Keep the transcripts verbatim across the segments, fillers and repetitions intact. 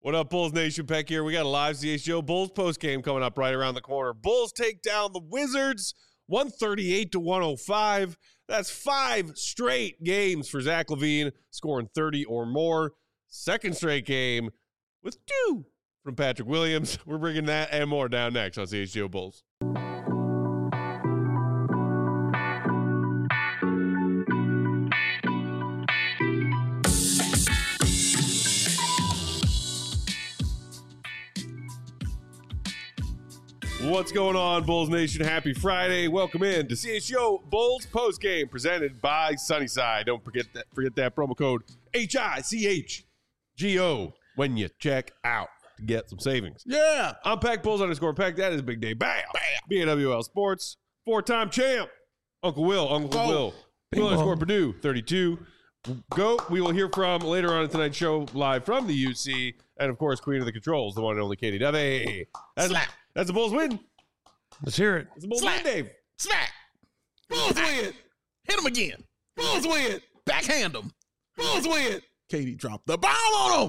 What up, Bulls Nation? Peck here. We got a live C H G O Bulls post game coming up right around the corner. Bulls take down the Wizards one thirty-eight to one oh five. That's five straight games for Zach LaVine, scoring thirty or more. Second straight game with two from Patrick Williams. We're bringing that and more down next on C H G O Bulls. What's going on, Bulls Nation? Happy Friday. Welcome in to C H G O Bulls postgame presented by Sunnyside. Don't forget that forget that promo code H I C H G O when you check out to get some savings. Yeah. I'm Peck Bulls underscore Peck. That is Big Day. Bam. Bam. B N W L Sports. Four-time champ. Uncle Will. Uncle Oh. Will. Will underscore Purdue. thirty-two. Go. We will hear from later on in tonight's show live from the U C. And, of course, Queen of the Controls, the one and only Katie Dovey. That's, Slap. that's the Bulls win. Let's hear it. It's the Bulls Slap. win, Dave. Smack. Bulls win. Hit him again. Bulls win. Backhand him. Bulls win. Katie dropped the bomb on him.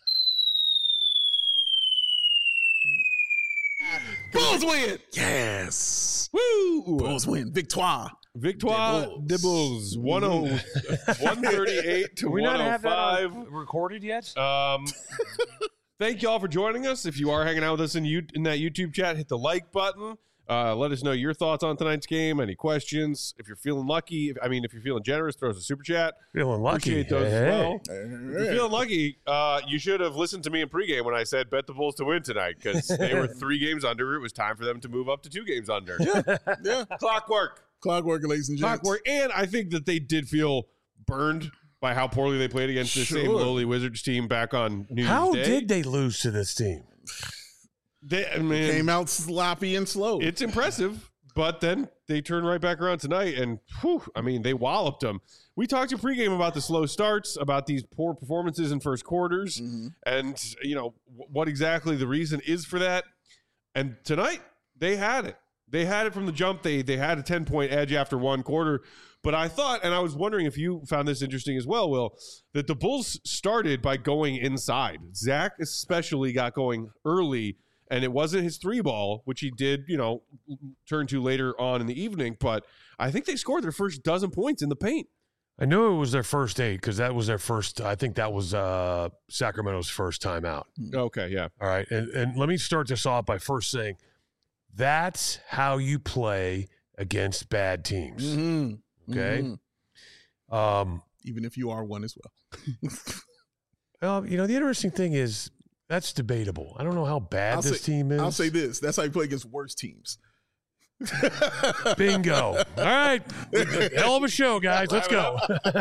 Bulls win. Yes. Woo! Bulls win. Victoire. Victoire de Bulls. one thirty-eight to Do we not have that one oh five. on- recorded yet? Um, thank you all for joining us. If you are hanging out with us in, you, in that YouTube chat, hit the like button. Uh, let us know your thoughts on tonight's game. Any questions? If you're feeling lucky, if, I mean, if you're feeling generous, throw us a super chat. Feeling lucky. Appreciate those Hey, as hey. well. If you're feeling lucky, uh, you should have listened to me in pregame when I said bet the Bulls to win tonight because they were three games under. It was time for them to move up to two games under. Yeah. Clockwork. Clockwork, ladies and gents. Clockwork. And I think that they did feel burned by how poorly they played against the same Sure. lowly Wizards team back on New How Year's Day. did they lose to this team? They, I mean, Came out sloppy and slow. it's impressive, but then they turn right back around tonight, and whew, I mean, they walloped them. We talked in pregame about the slow starts, about these poor performances in first quarters, Mm-hmm. and you know w- what exactly the reason is for that. And tonight they had it. They had it from the jump. They they had a ten point edge after one quarter. But I thought, and I was wondering if you found this interesting as well, Will, that the Bulls started by going inside. Zach especially got going early. And it wasn't his three ball, which he did, you know, turn to later on in the evening. But I think they scored their first dozen points in the paint. I knew it was their first eight because that was their first. I think that was uh, Sacramento's first time out. Okay, yeah. All right. And, and let me start this off by first saying that's how you play against bad teams. Mm-hmm. Okay. Mhm. Um, Even if you are one as well. well, you know, the interesting thing is that's debatable. I don't know how bad I'll this say- team is. I'll say this. That's how you play against worse teams. Bingo. All right. Hell of a show, guys. Let's go.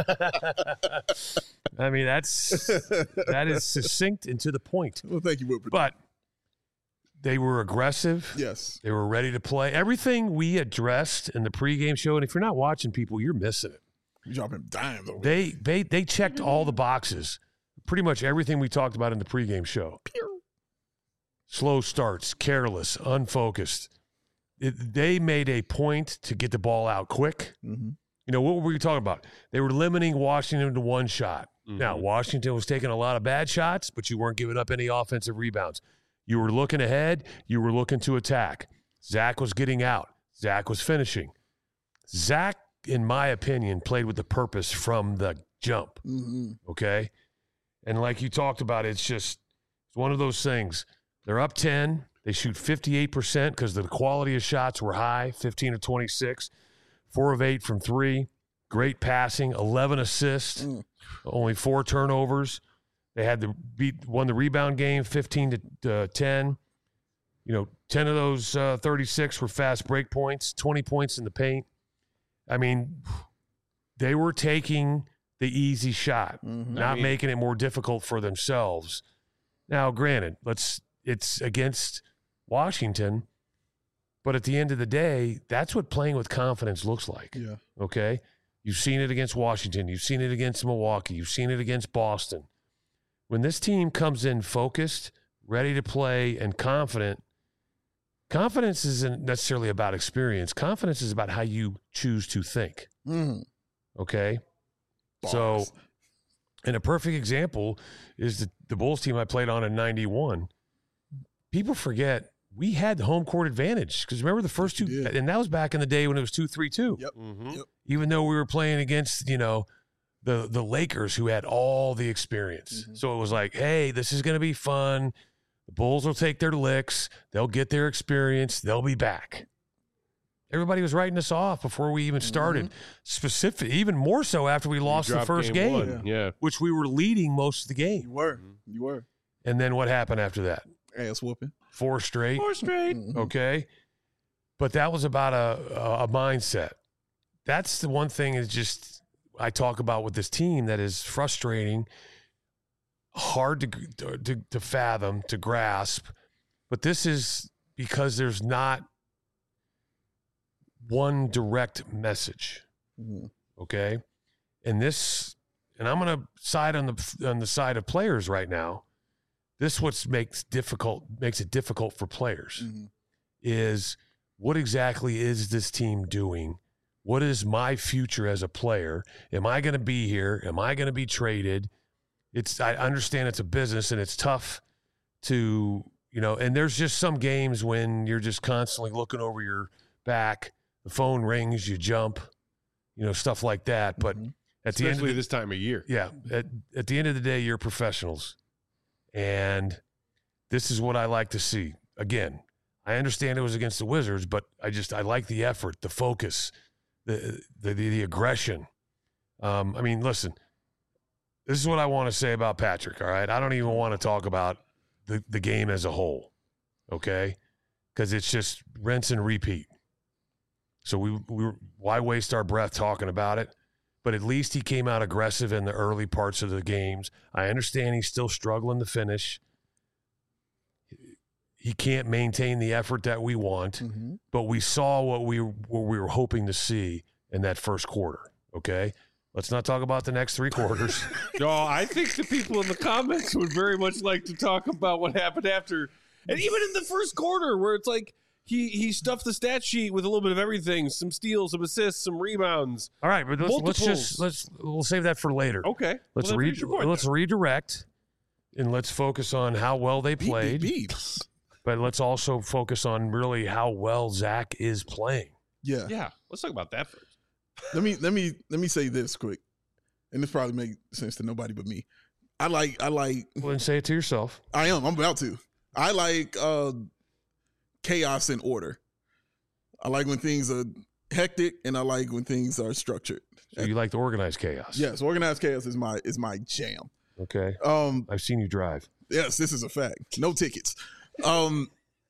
I mean, that's that is succinct and to the point. Well, thank you, Whitford. But they were aggressive. Yes. They were ready to play. Everything we addressed in the pregame show, and if you're not watching, people, you're missing it. You dropping dimes over They they they checked all the boxes. Pretty much everything we talked about in the pregame show. Slow starts, careless, unfocused. It, they made a point to get the ball out quick. Mm-hmm. You know, what were we talking about? They were limiting Washington to one shot. Mhm. Now, Washington was taking a lot of bad shots, but you weren't giving up any offensive rebounds. You were looking ahead. You were looking to attack. Zach was getting out. Zach was finishing. Zach, in my opinion, played with the purpose from the jump, Mm-hmm. okay? And like you talked about, it's just it's one of those things. They're up ten. They shoot fifty-eight percent because the quality of shots were high, fifteen of twenty-six, four of eight from three. Great passing, eleven assists, Mm. only four turnovers. They had the beat won the rebound game, fifteen to ten. You know, ten of those uh, thirty-six were fast break points, twenty points in the paint. I mean, they were taking the easy shot, Mm-hmm. not I mean- making it more difficult for themselves. Now, granted, let's it's against Washington, but at the end of the day, that's what playing with confidence looks like. Yeah. Okay? You've seen it against Washington. You've seen it against Milwaukee. You've seen it against Boston. When this team comes in focused, ready to play, and confident, confidence isn't necessarily about experience. Confidence is about how you choose to think. Mm-hmm. Okay? So And a perfect example is the, the Bulls team I played on in ninety-one. People forget we had the home court advantage because remember the first two, and that was back in the day when it was two three two. Yep. Mm-hmm. Yep. Even though we were playing against, you know, the the Lakers who had all the experience. Mm-hmm. So it was like, hey, this is going to be fun. The Bulls will take their licks. They'll get their experience. They'll be back. Everybody was writing us off before we even started. Mm-hmm. Specific, even more so after we lost the dropped first game game, one. Yeah. which we were leading most of the game. You were. You were. And then what happened after that? Ass whooping. Four straight. Four straight. Mhm. Okay. But that was about a, a, a mindset. That's the one thing is just I talk about with this team that is frustrating, hard to, to, to fathom, to grasp. But this is because there's not one direct message. Mhm. Okay. And this, and I'm going to side on the, on the side of players right now. This what makes difficult makes it difficult for players Mhm. is what exactly is this team doing? What is my future as a player? Am I going to be here? Am I going to be traded? It's I understand it's a business and it's tough to, you know, and there's just some games when you're just constantly looking over your back, the phone rings, you jump, you know, stuff like that. But Mhm. at the end of Especially the, this time of year. yeah, at, at the end of the day, you're professionals. And this is what I like to see. Again, I understand it was against the Wizards, but I just I like the effort, the focus, the the the, the aggression. Um, I mean, listen, this is what I want to say about Patrick, all right? I don't even want to talk about the, the game as a whole, okay? Because it's just rinse and repeat. So we, we why waste our breath talking about it? But at least he came out aggressive in the early parts of the games. I understand he's still struggling to finish. He can't maintain the effort that we want, Mhm. but we saw what we what we were hoping to see in that first quarter. Okay, let's not talk about the next three quarters. No, I think the people in the comments would very much like to talk about what happened after, and even in the first quarter, where it's like he he stuffed the stat sheet with a little bit of everything: some steals, some assists, some rebounds. All right, but let's, let's Multiples. just let's we'll save that for later. Okay, Let's well, then re- finish your point let's there. redirect, and let's focus on how well they Beep, played. beep, beep. But let's also focus on really how well Zach is playing. Yeah. Yeah, let's talk about that first. Let me let me let me say this quick, and this probably makes sense to nobody but me. I like I like Well, then say it to yourself. I am I'm about to. I like uh, chaos and order. I like when things are hectic, and I like when things are structured. So you like the organized chaos. Yes, organized chaos is my is my jam. Okay. Um, I've seen you drive. yes, this is a fact. No tickets. Um,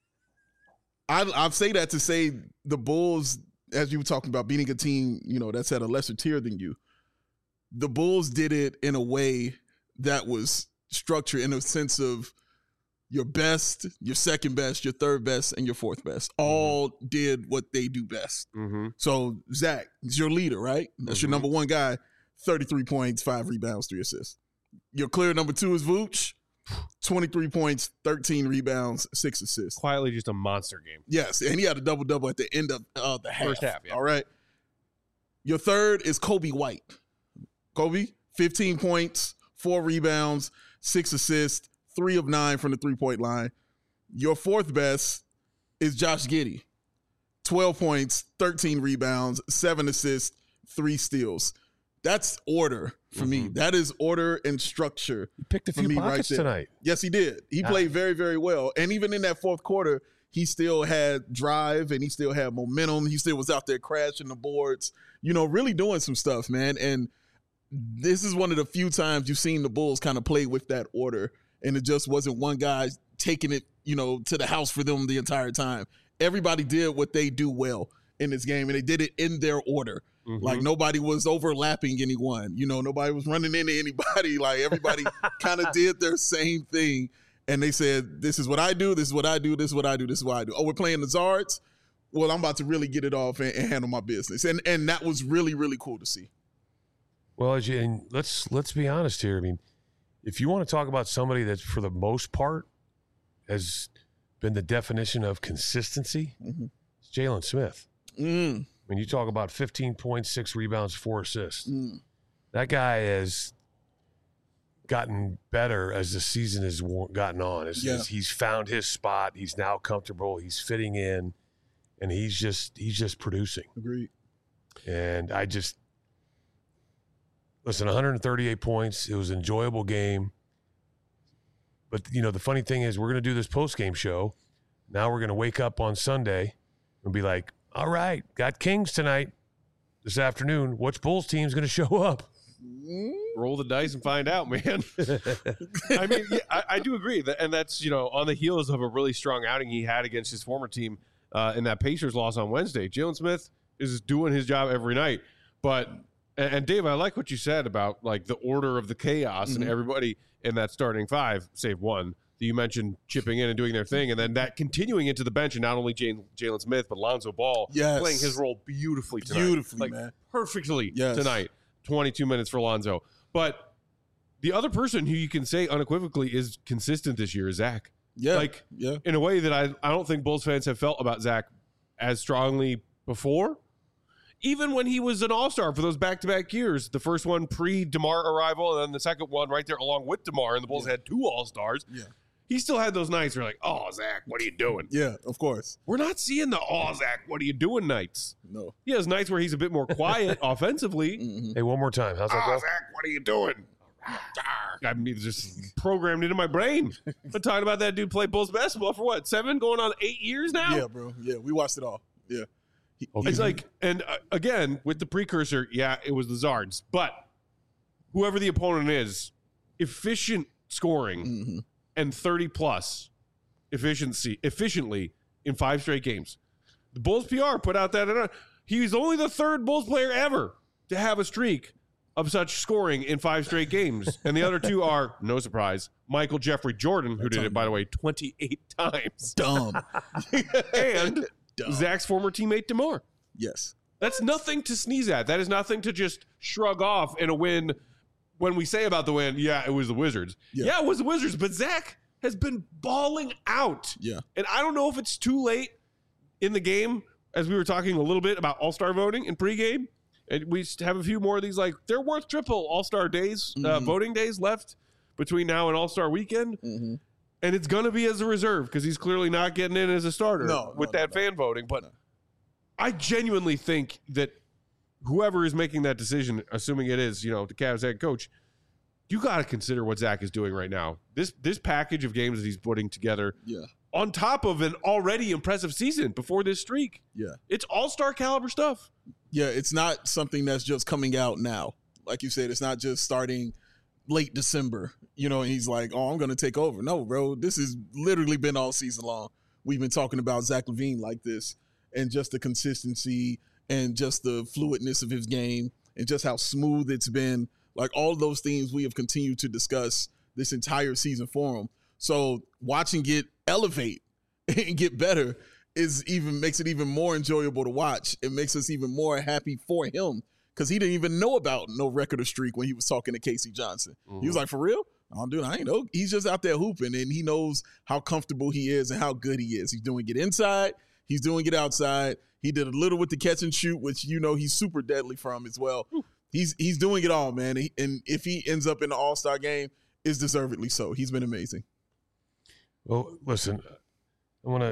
I I say that to say the Bulls, as you were talking about, beating a team, you know, that's at a lesser tier than you. The Bulls did it in a way that was structured in a sense of your best, your second best, your third best, and your fourth best. All did what they do best. Mm-hmm. So Zach is your leader, right? That's your Mhm. number one guy. thirty-three points, five rebounds, three assists. Your clear number two is Vooch. twenty-three points, thirteen rebounds, six assists. Quietly, just a monster game. Yes, and he had a double double at the end of uh, the half. First half, yeah. All right. Your third is Kobe White. Kobe, fifteen points, four rebounds, six assists, three of nine from the three point line. Your fourth best is Josh Giddey. twelve points, thirteen rebounds, seven assists, three steals. That's order for me. Mhm. That is order and structure. You picked a For few me right pockets there. tonight. Yes, he did. He Ah. played very, very well. And even in that fourth quarter, he still had drive and he still had momentum. He still was out there crashing the boards, you know, really doing some stuff, man. And this is one of the few times you've seen the Bulls kind of play with that order. And it just wasn't one guy taking it, you know, to the house for them the entire time. Everybody did what they do well in this game, and they did it in their order. Mhm. Like nobody was overlapping anyone, you know, nobody was running into anybody. Like everybody kind of did their same thing. And they said, this is what I do, this is what I do, this is what I do, this is what I do. Oh, we're playing the Zards? Well, I'm about to really get it off and, and handle my business. And and that was really, really cool to see. Well, as you, and let's let's be honest here. I mean, if you want to talk about somebody that, for the most part, has been the definition of consistency, Mhm. it's Jalen Smith. Mm, When you talk about fifteen points, six rebounds, four assists, mm. that guy is gotten better as the season has wor- gotten on. It's, Yeah. it's- he's found his spot. He's now comfortable. He's fitting in, and he's just he's just producing. Agreed. And I just listen. one hundred thirty-eight points. It was an enjoyable game. But you know, the funny thing is, we're going to do this post game show. Now we're going to wake up on Sunday and be like, "All right, got Kings tonight, this afternoon. Which Bulls team's going to show up?" Roll the dice and find out, man. I mean, yeah, I, I do agree that, and that's, you know, on the heels of a really strong outing he had against his former team uh, in that Pacers loss on Wednesday. Jalen Smith is doing his job every night. But and, and Dave, I like what you said about like the order of the chaos Mm-hmm. and everybody in that starting five, save one that you mentioned chipping in and doing their thing, and then that continuing into the bench, and not only Jalen Jalen Smith but Lonzo Ball Yes. playing his role beautifully tonight, Beautifully, like, man. perfectly Yes. tonight. twenty-two minutes for Lonzo. But the other person who you can say unequivocally is consistent this year is Zach. Yeah. Like, yeah. in a way that I, I don't think Bulls fans have felt about Zach as strongly before. Even when he was an all-star for those back-to-back years, the first one pre-DeMar arrival, and then the second one right there along with DeMar, and the Bulls Yeah. had two all-stars. Yeah. He still had those nights where like, oh, Zach, what are you doing? Yeah, of course. We're not seeing the, oh, Zach, what are you doing nights. No. He has nights where he's a bit more quiet offensively. Mhm. Hey, one more time. How's that Oh, go? Zach, what are you doing? I mean, it's just programmed into my brain. I'm talking about that dude play Bulls basketball for what, seven, going on eight years now? Yeah, bro. Yeah, we watched it all. Yeah. He- Okay. It's he- like, and uh, again, with the precursor, yeah, it was the Zards. But whoever the opponent is, efficient scoring Mhm. and thirty plus efficiency, efficiently in five straight games. The Bulls P R put out that he's only the third Bulls player ever to have a streak of such scoring in five straight games. And the other two are, no surprise, Michael Jeffrey Jordan, who That's did it, by the way, twenty-eight times, dumb. and Dumb. Zach's former teammate DeMar. Yes. That's nothing to sneeze at. That is nothing to just shrug off in a win. When we say about the win, yeah, it was the Wizards. Yeah. Yeah, it was the Wizards, but Zach has been balling out. Yeah. And I don't know if it's too late in the game, as we were talking a little bit about all-star voting in pregame. And we have a few more of these, like, they're worth triple all-star days, uh, Mhm. voting days left between now and all-star weekend. Mm-hmm. And it's going to be as a reserve because he's clearly not getting in as a starter No, with no, that no, fan voting. But no. I genuinely think that whoever is making that decision, assuming it is, you know, the Cavs head coach, you got to consider what Zach is doing right now. This this package of games that he's putting together Yeah. on top of an already impressive season before this streak. Yeah. It's all-star caliber stuff. Yeah, it's not something that's just coming out now. Like you said, it's not just starting late December, you know, and he's like, oh, I'm going to take over. No, bro, this has literally been all season long. We've been talking about Zach LaVine like this, and just the consistency and just the fluidness of his game and just how smooth it's been. Like all those things we have continued to discuss this entire season for him. So watching it elevate and get better is even makes it even more enjoyable to watch. It makes us even more happy for him because he didn't even know about no record or streak when he was talking to Casey Johnson. Mm-hmm. He was like, for real? Oh, dude, I ain't know. He's just out there hooping, and he knows how comfortable he is and how good he is. He's doing it inside. He's doing it outside. He did a little with the catch and shoot, which, you know, he's super deadly from as well. Ooh. He's he's doing it all, man. He, and if he ends up in the All-Star game, it's deservedly so. He's been amazing. Well, listen, I want to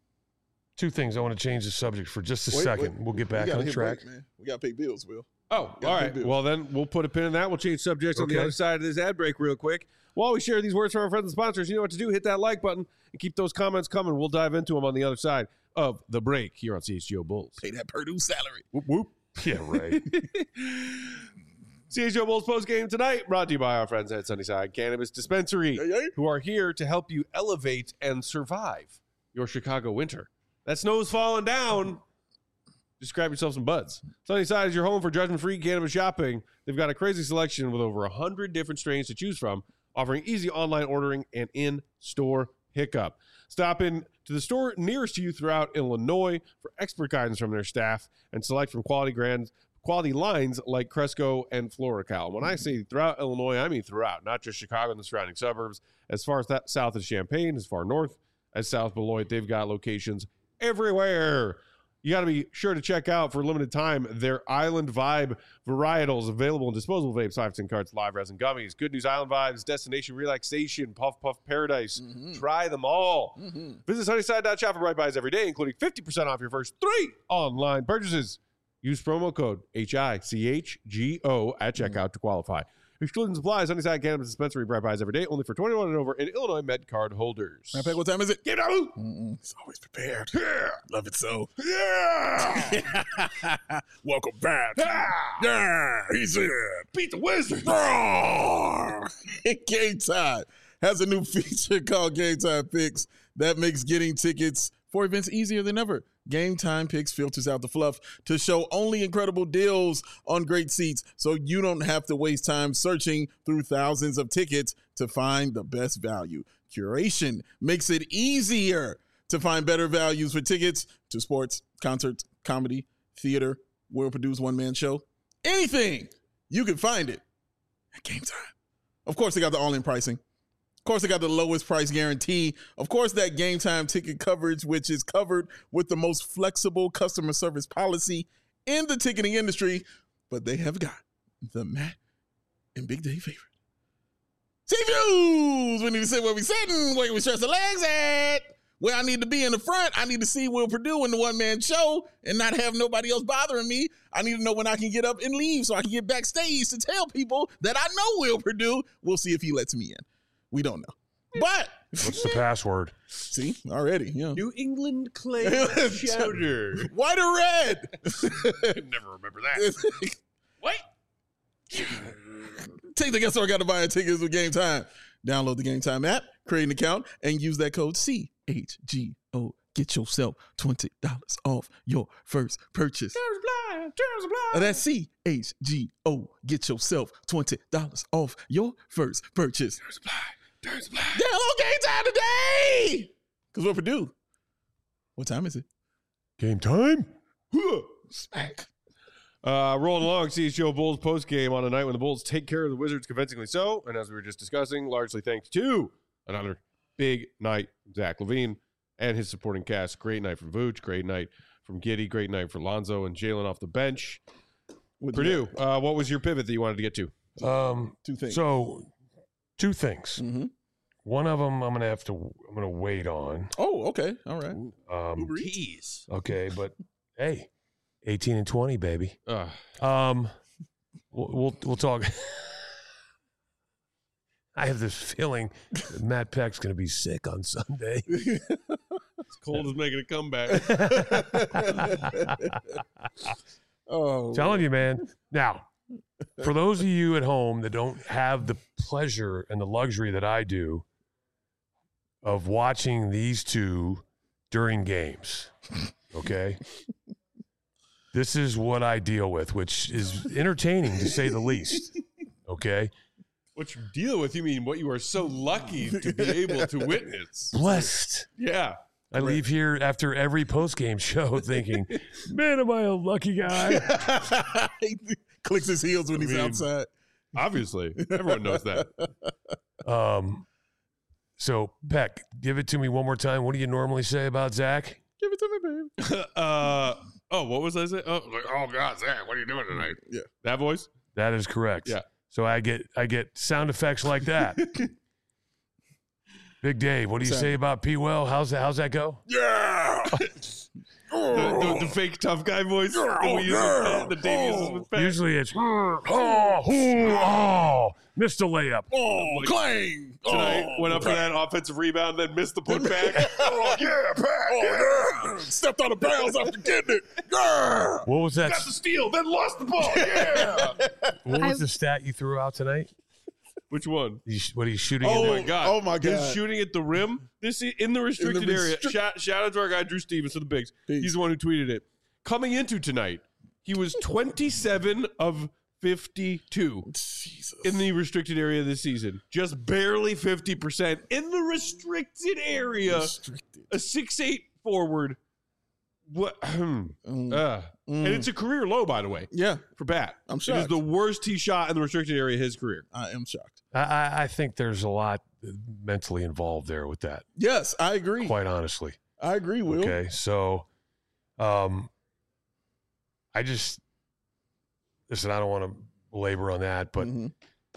two things. I want to change the subject for just a Wait, second. wait. We'll get We back gotta on hit track. break, man. We got to pay bills, Will. Oh, Gotta all pay right. bills. Well, then we'll put a pin in that. We'll change subjects on the Okay. other side of this ad break real quick. While we share these words from our friends and sponsors, you know what to do. Hit that like button and keep those comments coming. We'll dive into them on the other side of the break here on C H G O Bulls. Pay that Purdue salary. Whoop, whoop. Yeah, right. C H G O Bulls post game tonight, brought to you by our friends at Sunnyside Cannabis Dispensary, Hey, hey. who are here to help you elevate and survive your Chicago winter. That snow's falling down. Just grab yourself some buds. Sunnyside is your home for judgment-free cannabis shopping. They've got a crazy selection with over one hundred different strains to choose from, offering easy online ordering and in-store pickup. Stop in to the store nearest to you throughout Illinois for expert guidance from their staff and select from quality brands, quality lines like Cresco and Florical. When I say throughout Illinois, I mean throughout, not just Chicago and the surrounding suburbs. As far as that south as Champaign, as far north as South Beloit, they've got locations everywhere. you got to be sure to check out for a limited time their Island Vibe varietals available in disposable vapes, five ten carts, live resin gummies. Good News Island Vibes, Destination Relaxation, Puff Puff Paradise. Mm-hmm. Try them all. Mm-hmm. Visit Sunnyside dot shop for Bright Buys every day, including fifty percent off your first three online purchases. Use promo code H I C H G O at checkout mm-hmm. to qualify. Exclusion supplies, Sunnyside Cannabis Dispensary, Bright Buys every day, only for twenty-one and over, and Illinois Med card holders. Matter of fact, what time is it? Get out! It's always prepared. Yeah! Love it so. Yeah! Welcome back. Yeah! Yeah! He's in. Beat the Wizards! Game Time has a new feature called Game Time Picks that makes getting tickets for events easier than ever. Game Time Picks filters out the fluff to show only incredible deals on great seats, so you don't have to waste time searching through thousands of tickets to find the best value. Curation makes it easier to find better values for tickets to sports, concerts, comedy, theater, well-produced one-man show. Anything, you can find it at Game Time. Of course, they got the all-in pricing. Of course, they got the lowest price guarantee. Of course, that Game Time ticket coverage, which is covered with the most flexible customer service policy in the ticketing industry. But they have got the Matt and Big Day favorite. C-Views! We need to sit where we sitting, where we stretch the legs at. Where I need to be in the front, I need to see Will Purdue in the one-man show and not have nobody else bothering me. I need to know when I can get up and leave so I can get backstage to tell people that I know Will Purdue. We'll see if he lets me in. We don't know. But what's the password? See, already, yeah. New England Clay Chowder. White or red? Never remember that. What? Take the guess I got to buy tickets with Game Time. Download the Game Time app, create an account, and use that code C H G O. Get yourself twenty dollars off your first purchase. Blind, blind. That's C H G O. Get yourself twenty dollars off your first purchase. There's blind. There's blind. Download Game Time today. Because we're Purdue. What time is it? Game time? Smack. Uh, rolling along, C H G O Bulls post game on a night when the Bulls take care of the Wizards convincingly so, and as we were just discussing, largely thanks to another big night, Zach LaVine and his supporting cast. Great night from Vooch, great night from Giddey, great night for Lonzo and Jalen off the bench. With Purdue, uh, what was your pivot that you wanted to get to? Um, two things. So, two things. Mm-hmm. One of them I'm gonna have to. I'm gonna wait on. Oh, okay, all right. Um, Tease. Okay, but hey. eighteen and twenty, baby. Uh, um, we'll, we'll we'll talk. I have this feeling that Matt Peck's going to be sick on Sunday. It's cold as making a comeback. Oh, telling you, man. Now, for those of you at home that don't have the pleasure and the luxury that I do of watching these two during games, okay? This is what I deal with, which is entertaining to say the least. Okay. What you deal with, you mean what you are so lucky to be able to witness. Blessed. Yeah. I leave here after every post-game show thinking, man, am I a lucky guy? He clicks his heels when I he's mean, outside. Obviously. Everyone knows that. Um. So, Peck, give it to me one more time. What do you normally say about Zach? Give it to me, babe. uh, oh, what was I saying? Oh, like, oh, God, Zach, what are you doing tonight? Yeah. That voice? That is correct. Yeah. So I get I get sound effects like that. Big Dave, what do you What's say that? about P. Well? How's that? How's that go? Yeah. the, the, the fake tough guy voice Yeah, that we use yeah. with, the Dave uses with Pat. Usually it's oh, oh, oh, missed a layup. Oh, Like, clang. Tonight oh, went up for that offensive rebound, then missed the putback. Oh, yeah, Pat. Oh, yeah. Stepped out of bounds after getting it. Yeah. What was that? Got the steal, then lost the ball. Yeah. What was I- the stat you threw out tonight? Which one? You, what are you shooting? Oh, in Oh there? my God. Oh, my His God. shooting at the rim, this i- in the restricted area. restrict- Shout, shout out to our guy, Drew Stevens, for the bigs. Peace. He's the one who tweeted it. Coming into tonight, he was twenty-seven of fifty-two Jesus. in the restricted area this season. Just barely fifty percent in the restricted area. Restricted. A six eight forward. What? Mm. Uh, And it's a career low, by the way, Yeah, for Bat. I'm It is shocked. the worst he shot in the restricted area of his career. I am shocked. I, I, I think there's a lot mentally involved there with that. Yes, I agree. Quite honestly. I agree, Will. Okay, so Um, I just listen. I don't want to belabor on that, but Mhm.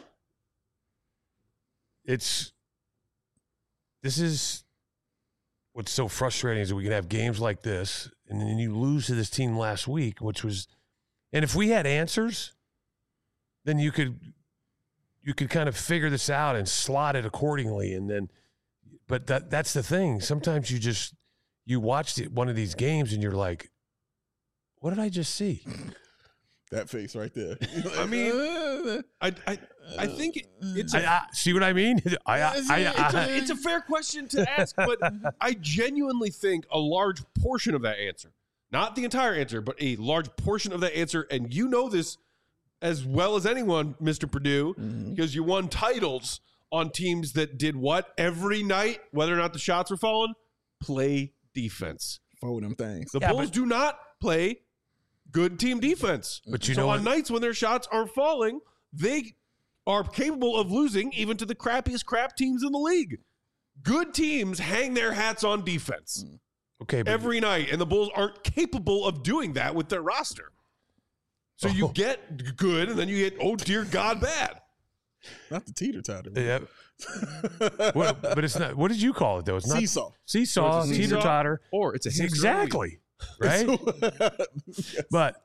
it's this is what's so frustrating is that we can have games like this, and then you lose to this team last week, which was, and if we had answers, then you could you could kind of figure this out and slot it accordingly, and then. But that that's the thing. Sometimes you just you watch the, one of these games and you're like, what did I just see? That face right there. I mean, I I, I think it- it's a, I, I, see what I mean? I, I, I, I, it's a fair question to ask, but I genuinely think a large portion of that answer, not the entire answer, but a large portion of that answer, and you know this as well as anyone, Mister Purdue, Mhm. because you won titles on teams that did what every night, whether or not the shots were falling, play defense. Fold them things. The Yeah, Bulls but- do not play good team defense. But you so know on what? nights when their shots aren't falling, they are capable of losing even to the crappiest crap teams in the league. Good teams hang their hats on defense okay, but every night, and the Bulls aren't capable of doing that with their roster. So you Oh. get good, and then you get, oh, dear God, bad. Not the teeter totter. yeah, what, but it's not. What did you call it though? It's not Seesaw. seesaw, So it's a teeter seesaw, totter. Or it's a hamster Exactly, right? Yes. But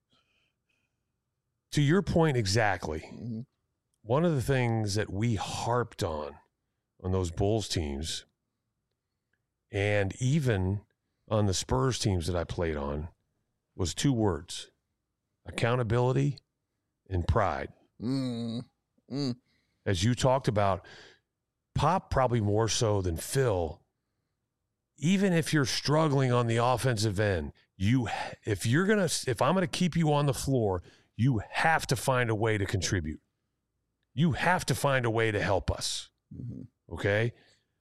to your point, exactly. Mhm. One of the things that we harped on on those Bulls teams, and even on the Spurs teams that I played on, was two words: accountability and pride. Mm. Mm. As you talked about, Pop probably more so than Phil. Even if you're struggling on the offensive end, you if you're gonna if I'm gonna keep you on the floor, you have to find a way to contribute. You have to find a way to help us. Mhm. Okay?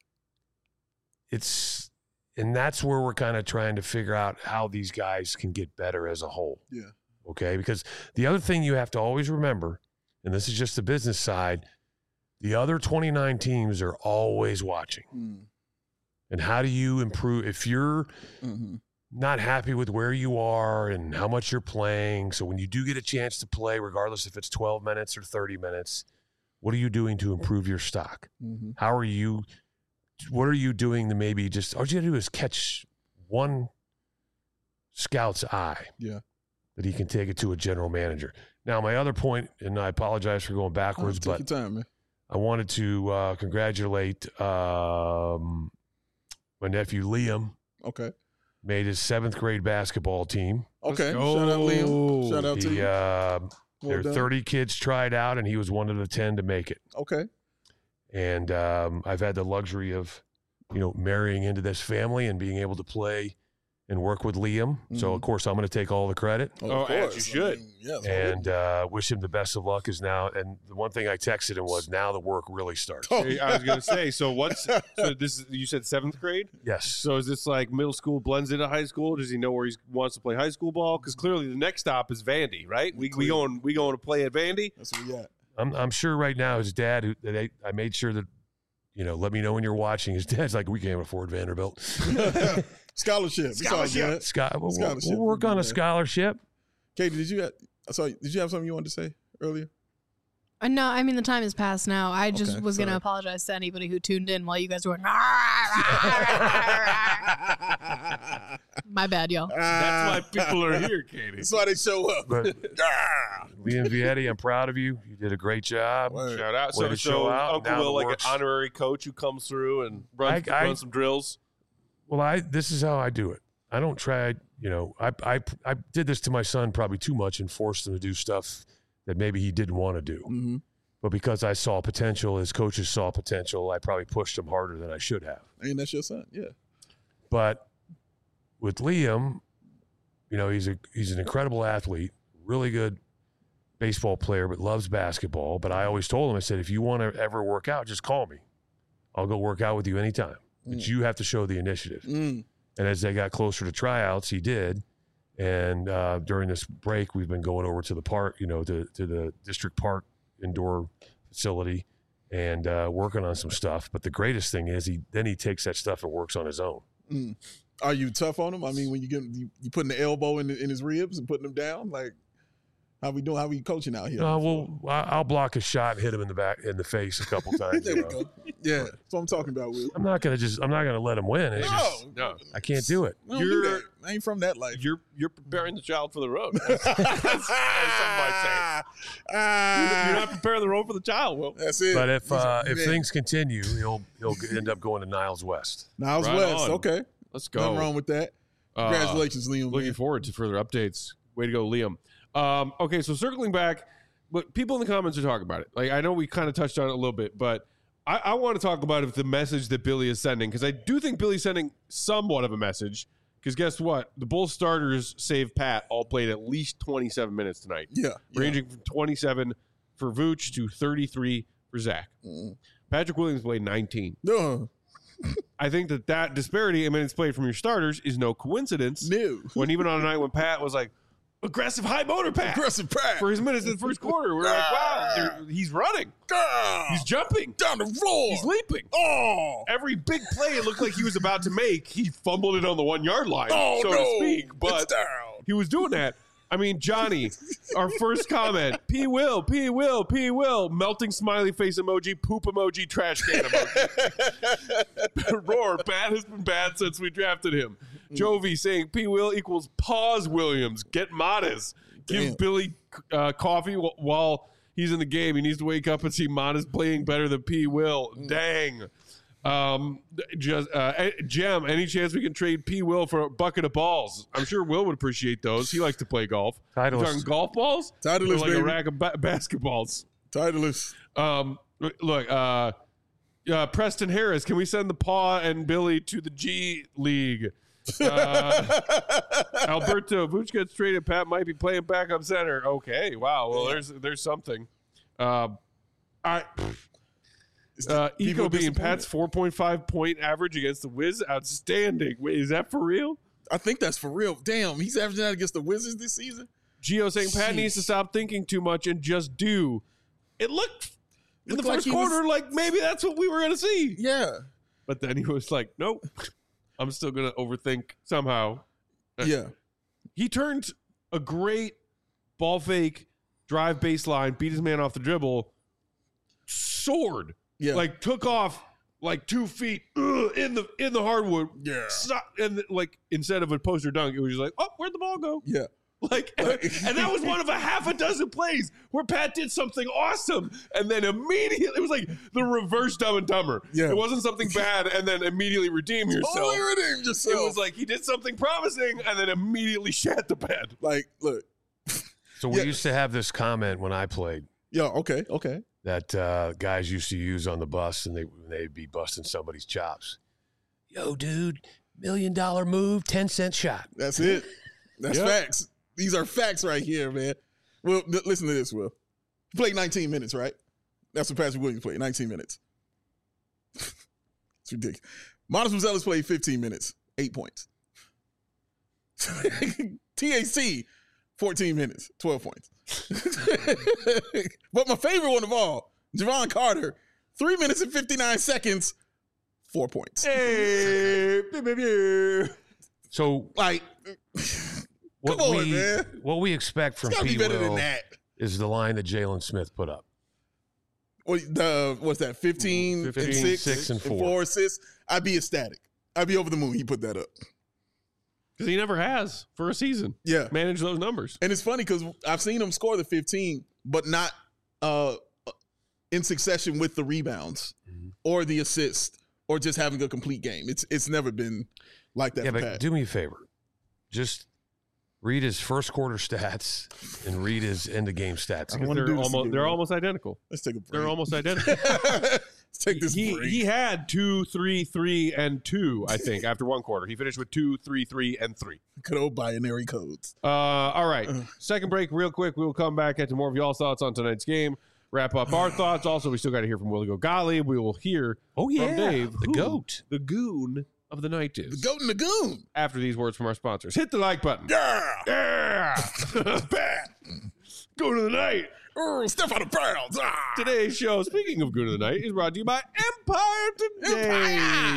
It's and that's where we're kind of trying to figure out how these guys can get better as a whole. Yeah. Okay? Because the other thing you have to always remember, and this is just the business side, the other twenty-nine teams are always watching. Mm. And how do you improve if you're Mhm. not happy with where you are and how much you're playing? So when you do get a chance to play, regardless if it's twelve minutes or thirty minutes, what are you doing to improve your stock? Mhm. How are you, what are you doing to maybe just, all you got to do is catch one scout's eye. Yeah. That he can take it to a general manager. Now, my other point, and I apologize for going backwards, Oh, take but your time, man. I wanted to uh, congratulate um, my nephew Liam. Okay. Made his seventh grade basketball team. Okay. go. Shout out Liam. Shout out to He, you. uh, Well there were done. thirty kids tried out, and he was one of the ten to make it. Okay. And um, I've had the luxury of, you know, marrying into this family and being able to play and work with Liam. So, Mhm. of course, I'm going to take all the credit. Oh, Oh, of as course. you should. I mean, yes, And uh, wish him the best of luck. Is now, and the one thing I texted him was, now the work really starts. Oh. I was gonna say. So what's so this? Is, you said seventh grade. Yes. So is this like middle school blends into high school? Does he know where he wants to play high school ball? Because clearly the next stop is Vandy, right? We we going we going to play at Vandy. That's what we got. I'm I'm sure right now his dad, who that I, I made sure that, you know, let me know when you're watching. His dad's like, we can't afford Vanderbilt. Scholarship. It's all Scholarship. good. Scott, we'll, we'll- Scholarship. we'll work on a Yeah. scholarship. Katie, did you have, sorry, did you have something you wanted to say earlier? Uh, no, I mean the time has passed now. I just Okay, was going to sorry. apologize to anybody who tuned in while you guys were. My bad, y'all. That's why people are here, Katie. That's why they show up. But Ah. Liam Vietti, I'm proud of you. You did a great job. Word. Shout out. Way So, to so show out. Uncle Now Will, the like works. an honorary coach who comes through and runs, I- I- runs some drills. Well, I this is how I do it. I don't try, you know, I I I did this to my son probably too much and forced him to do stuff that maybe he didn't want to do. Mhm. But because I saw potential, his coaches saw potential, I probably pushed him harder than I should have. And that's your son. Yeah. But with Liam, you know, he's a he's an incredible athlete, really good baseball player, but loves basketball. But I always told him, I said, if you want to ever work out, just call me. I'll go work out with you anytime. But Mm. you have to show the initiative. Mm. And as they got closer to tryouts, he did. And uh, during this break, we've been going over to the park, you know, to, to the district park indoor facility and uh, working on some stuff. But the greatest thing is he then he takes that stuff and works on his own. Mm. Are you tough on him? I mean, when you get you, you putting the elbow in, the, in his ribs and putting him down, like how we doing? How we coaching out here? Uh, well, I- I'll block a shot and hit him in the back in the face a couple times. there you we know. go. Yeah, that's what I'm talking about, Will. I'm not gonna just. I'm not gonna let him win. It's No, just, No, I can't do it. we don't do You're- that. I ain't from that life. you're you're preparing the child for the road. As, as some might say. Ah, You're not preparing the road for the child, Will. That's it. But if uh, if Man. things continue, he'll he'll end up going to Niles West. Niles Right West, on. okay, Let's go. nothing wrong with that. Uh, Congratulations, Liam. Looking man. forward to further updates. Way to go, Liam. Um, okay, so circling back, but people in the comments are talking about it. Like I know we kind of touched on it a little bit, but I, I want to talk about it, the message that Billy is sending, because I do think Billy's sending somewhat of a message. Because guess what? The Bulls starters, save Pat, all played at least twenty-seven minutes tonight, Yeah, yeah. ranging from twenty-seven for Vooch to thirty-three for Zach. Mm. Patrick Williams played nineteen. No, I think that that disparity in minutes played from your starters is no coincidence. no. When even on a night when Pat was like, aggressive high motor Pat Aggressive Pat. for his minutes in the first quarter, we're like, wow, they're- he's running, Ah, he's jumping, down the floor. he's leaping. Oh, Every big play it looked like he was about to make, he fumbled it on the one yard line, oh so no. to speak. It's But down. he was doing that. I mean, Johnny, our first comment, P Will, P Will, P Will, melting smiley face emoji, poop emoji, trash can emoji. Roar, bad has been bad since we drafted him. Jovi saying P Will equals pause Williams, get modest. Give Damn. Billy uh, coffee wh- while he's in the game. He needs to wake up and see Modest playing better than P Will. Dang. Um, just uh, eh, Jem, any chance we can trade P Will for a bucket of balls? I'm sure Will would appreciate those. He likes to play golf. You Titleist. talking golf balls? Titleist, Or like baby. a rack of ba- basketballs. Titleist. Um, look, uh, uh, Preston Harris, can we send the Paw and Billy to the G League? Uh, Alberto Vooch gets traded. Pat might be playing backup center. Okay, wow. Well, there's there's something. Uh, I. Uh, People Eco being disappointed. Pat's four point five point average against the Wiz, outstanding. Wait, is that for real? I think that's for real. Damn, he's averaging out against the Wizards this season. Gio saying Pat Jeez. needs to stop thinking too much and just do. It looked in Looked the like first he was- quarter like maybe that's what we were going to see. Yeah, But then he was like, nope, I'm still going to overthink somehow. yeah. He turned a great ball fake, drive baseline, beat his man off the dribble, soared, Yeah. like took off like two feet ugh, in the in the hardwood. Yeah. Stop, and like instead of a poster dunk, it was just like, oh, where'd the ball go? Yeah. Like, and, and that was one of a half a dozen plays where Pat did something awesome, and then immediately it was like the reverse Dumb and Dumber. Yeah. It wasn't something bad, and then immediately redeem yourself. Only redeem yourself. It was like he did something promising, and then immediately shat the bed. like, look. So we Yeah. used to have this comment when I played Yeah. Okay. Okay. that uh, guys used to use on the bus, and they they'd be busting somebody's chops. Yo, dude, million dollar move, ten cent shot. That's it. That's Yeah. facts. These are facts right here, man. Well, th- listen to this, Will. He played nineteen minutes, right? That's what Patrick Williams played, nineteen minutes. It's ridiculous. Modest Rosales played fifteen minutes, eight points. T A C, fourteen minutes, twelve points. But my favorite one of all, Javon Carter, three minutes and fifty-nine seconds, four points. Hey, So Like, what Come on, we man. what we expect from it's got to P. be better Will than that. is the line that Jalen Smith put up. What the what's that? Fifteen, fifteen, and six, six, and four. assists. I'd be ecstatic. I'd be over the moon. He put that up. because he never has for a season. Yeah, Manage those numbers. and it's funny because I've seen him score the fifteen, but not uh, in succession with the rebounds Mhm. or the assist or just having a complete game. It's it's never been like that. Yeah, for but Pat. do me a favor. Just read his first quarter stats and read his end of game stats. I wanna They're do this almost again, they're man. almost identical. Let's take a break. They're almost identical. Let's take this he, break. he had two, three, three, and two, I think, after one quarter. He finished with two, three, three, and three. Good old binary codes. Uh, all right. Second break, real quick. We will come back, get to more of y'all's thoughts on tonight's game. Wrap up our thoughts. Also, we still got to hear from Willie Gogali. We will hear Oh, from yeah, Dave, the who GOAT. the goon of the night is. The goat and the goon. After these words from our sponsors. Hit the like button. Yeah. Yeah. Bad. Go to the night. Oh, step out of bounds. Ah. Today's show, speaking of Goon of the Night, is brought to you by Empire Today. Empire.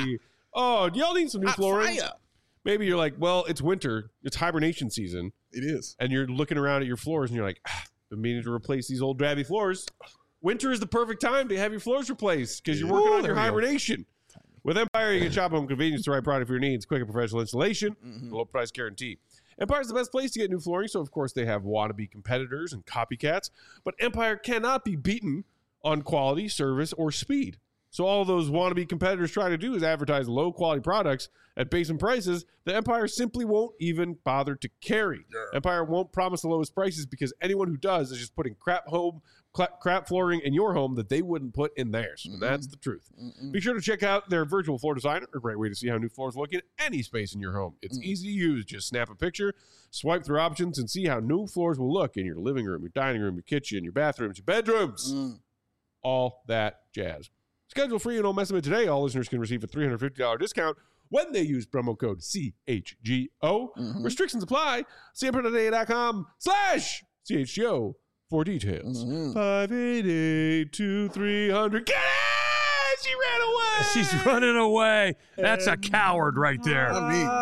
Oh, y'all need some new Hot flooring? fire. Maybe you're like, well, it's winter. It's hibernation season. It is. And you're looking around at your floors and you're like, ah, been meaning to replace these old drabby floors. Winter is the perfect time to have your floors replaced because you're working Ooh, on your there we go. hibernation. With Empire, you can shop home convenience, the right product for your needs, quick and professional installation, Mm-hmm. low price guarantee. Empire's the best place to get new flooring, so of course they have wannabe competitors and copycats, but Empire cannot be beaten on quality, service, or speed. So all those wannabe competitors try to do is advertise low-quality products at base prices that Empire simply won't even bother to carry. Yeah. Empire won't promise the lowest prices because anyone who does is just putting crap home, cla- crap flooring in your home that they wouldn't put in theirs. Mm-hmm. And that's the truth. Be sure to check out their virtual floor designer, a great way to see how new floors look in any space in your home. It's Mm. easy to use. Just snap a picture, swipe through options, and see how new floors will look in your living room, your dining room, your kitchen, your bathrooms, your bedrooms. Mm. All that jazz. Schedule free and no estimate today. All listeners can receive a three hundred fifty dollars discount when they use promo code C H G O. Mhm. Restrictions apply. C M P today dot com slash C H G O for details. Mhm. five eight eight, two three hundred. Get it! She ran away! She's running away. That's a coward right there.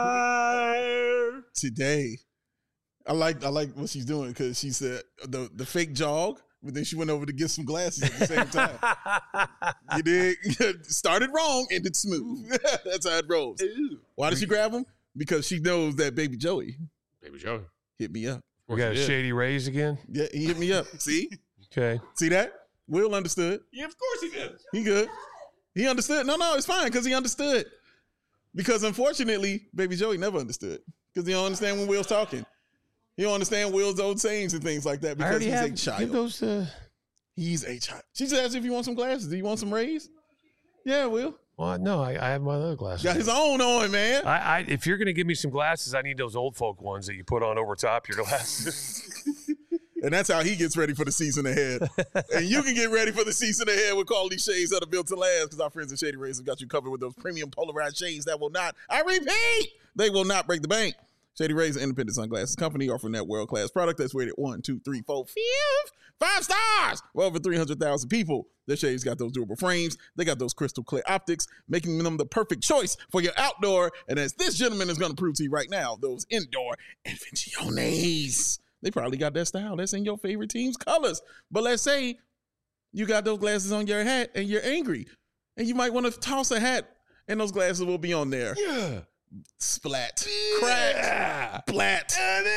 I mean, today, I like I like what she's doing because she said the the fake jog, but then she went over to get some glasses at the same time. You did started wrong, ended smooth. That's how it rolls. Why did she grab him? Because she knows that baby Joey Baby Joey. hit me up. We got she did. Shady Rays again. Yeah, he hit me up. See, Okay. see that? Will understood. Yeah, of course he did. He good. He understood. No, no, it's fine because he understood. Because unfortunately, baby Joey never understood because he don't understand when Will's talking. He don't understand Will's old sayings and things like that I because already he's have a give child. those to. He's a child. She just asked if you want some glasses. Do you want some rays? Yeah, Will. Well, no, I, I have my other glasses. Got his own on, man. I, I, if you're gonna give me some glasses, I need those old folk ones that you put on over top your glasses. And that's how he gets ready for the season ahead. And you can get ready for the season ahead with quality shades that are built to last because our friends at Shady Rays have got you covered with those premium polarized shades that will not, I repeat, they will not break the bank. Shady Rays, an independent sunglasses company offering that world-class product that's rated one, two, three, four, five, five stars for over three hundred thousand people. Their shades got those durable frames. They got those crystal clear optics, making them the perfect choice for your outdoor. And as this gentleman is going to prove to you right now, those indoor Invenciones. They probably got that style. That's in your favorite team's colors. But let's say you got those glasses on your hat and you're angry. And you might want to toss a hat and those glasses will be on there. Yeah. Splat. Crack. Yeah. Splat.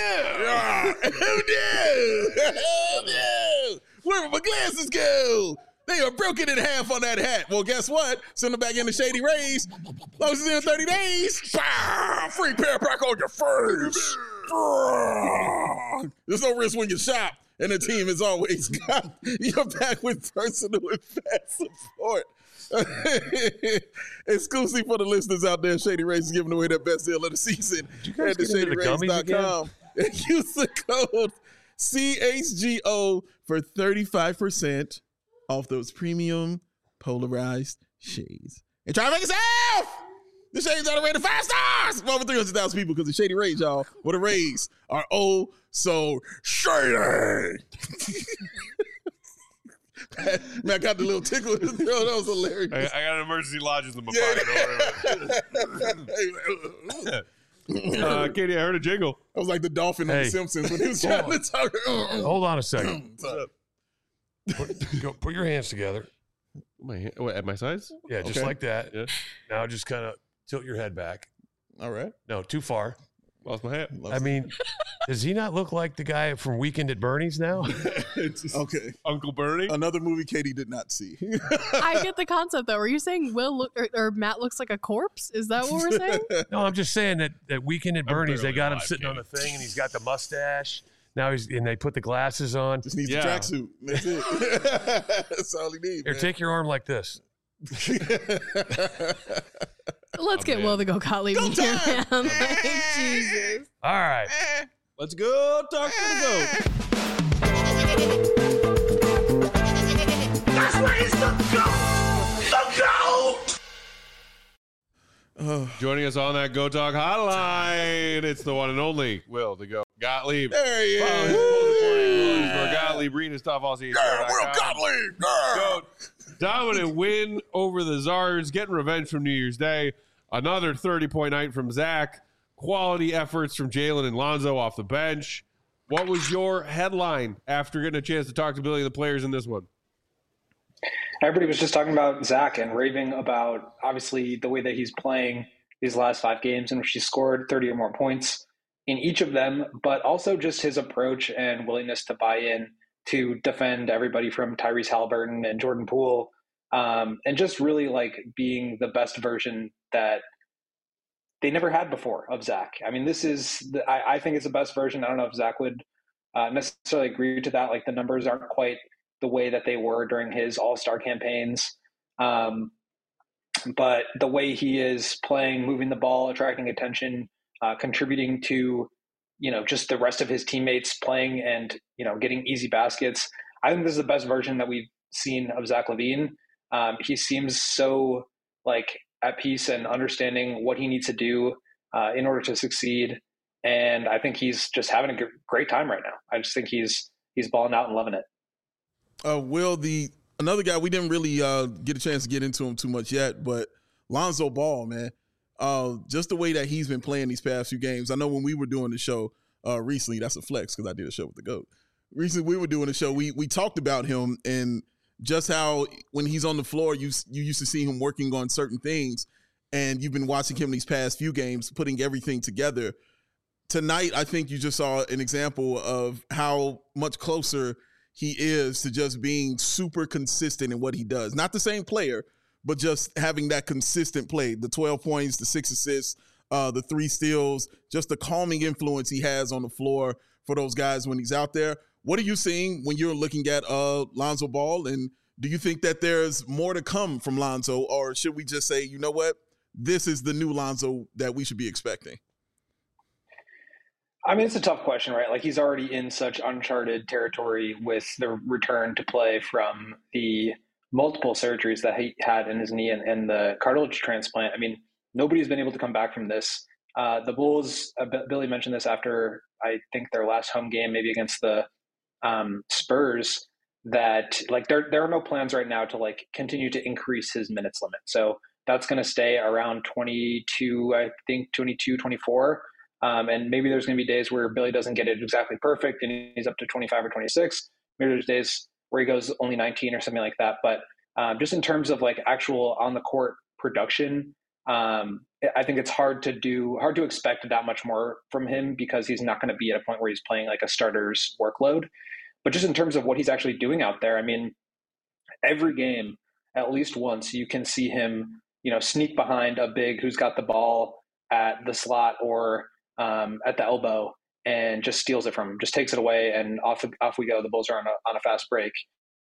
I know. Oh no! Oh no! Where did my glasses go? They are broken in half on that hat. Well, guess what? Send them back in the Shady Rays. Long as it's in thirty days. Bah! Free pair back on your face. There's no risk when you shop. And the team has always got your back with personal and fast support. Exclusive for the listeners out there, Shady Rays is giving away their best deal of the season you guys at the get into shady the rays gummies dot com. And use the code C H G O for thirty-five percent off those premium polarized shades. And try to make it yourself! The shades are rated five stars for over three hundred thousand people because the Shady Rays, y'all, where the Rays are oh so shady. Man, I got the little tickle in his throat. That was hilarious. I, I got an emergency lodges in my pocket. uh, Katie, I heard a jingle. I was like the dolphin on Hey. The Simpsons when he was trying to talk. Hold on a second. What's up? Put, go, put your hands together. My hand, what, at my size? Yeah, just Okay. like that. Yeah. Now just kind of tilt your head back. All right. No, too far. Lost my hat. I mean, does he not look like the guy from Weekend at Bernie's now? It's just Okay. Uncle Bernie. Another movie Katie did not see. I get the concept though. Are you saying Will look or, or Matt looks like a corpse? Is that what we're saying? No, I'm just saying that that Weekend at I'm Bernie's, they barely got him alive, sitting on Kenny. the thing, and he's got the mustache. Now he's and they put the glasses on. Just needs Yeah. a tracksuit. That's it. That's all he needs. Here, man. take your arm like this. Let's get man. Will to go Gottlieb Go in here, time! man. Like, Jesus. All right. Let's go talk to the goat. That's where he's the goat! The goat! Oh, Joining us on that Go Talk hotline, it's the one and only Will the Goat Gottlieb. there he Follow his is. full supporting for Gottlieb. Read his stuff all season. Yeah, Will Gottlieb. Yeah. Goat. Dominant win over the Czars, getting revenge from New Year's Day. Another thirty-point night from Zach. Quality efforts from Jalen and Lonzo off the bench. What was your headline after getting a chance to talk to Billy and the players in this one? Everybody was just talking about Zach and raving about, obviously, the way that he's playing these last five games in which he scored thirty or more points in each of them, but also just his approach and willingness to buy in to defend everybody from Tyrese Halliburton and Jordan Poole, um, and just really like being the best version that they never had before of Zach. I mean, this is, the, I, I think it's the best version. I don't know if Zach would uh, necessarily agree to that. Like the numbers aren't quite the way that they were during his all-star campaigns. Um, but the way he is playing, moving the ball, attracting attention, uh, contributing to, you know, just the rest of his teammates playing and, you know, getting easy baskets. I think this is the best version that we've seen of Zach LaVine. Um, he seems so like at peace and understanding what he needs to do uh, in order to succeed. And I think he's just having a great time right now. I just think he's, he's balling out and loving it. Uh, Will, the another guy we didn't really uh, get a chance to get into him too much yet, but Lonzo Ball, man, uh, just the way that he's been playing these past few games. I know when we were doing the show uh, recently, that's a flex because I did a show with the GOAT. Recently, we were doing a show. We we talked about him and just how when he's on the floor, you you used to see him working on certain things, and you've been watching him these past few games, putting everything together. Tonight, I think you just saw an example of how much closer he is to just being super consistent in what he does. Not the same player, but just having that consistent play. The twelve points, the six assists, uh, the three steals, just the calming influence he has on the floor for those guys when he's out there. What are you seeing when you're looking at uh, Lonzo Ball? And do you think that there's more to come from Lonzo, or should we just say, you know what, this is the new Lonzo that we should be expecting? I mean, it's a tough question, right? Like he's already in such uncharted territory with the return to play from the multiple surgeries that he had in his knee and, and the cartilage transplant. I mean, nobody's been able to come back from this. Uh, the Bulls, uh, Billy mentioned this after, I think, their last home game, maybe against the um, Spurs, that like there, there are no plans right now to like continue to increase his minutes limit. So that's going to stay around twenty-two, I think twenty-two, twenty-four. Um, and maybe there's going to be days where Billy doesn't get it exactly perfect and he's up to twenty-five or twenty-six. Maybe there's days where he goes only nineteen or something like that. But um, just in terms of like actual on the court production, um, I think it's hard to do, hard to expect that much more from him because he's not going to be at a point where he's playing like a starter's workload. But just in terms of what he's actually doing out there, I mean, every game, at least once, you can see him, you know, sneak behind a big who's got the ball at the slot or um, at the elbow and just steals it from him, just takes it away, and off off we go. The Bulls are on a on a fast break.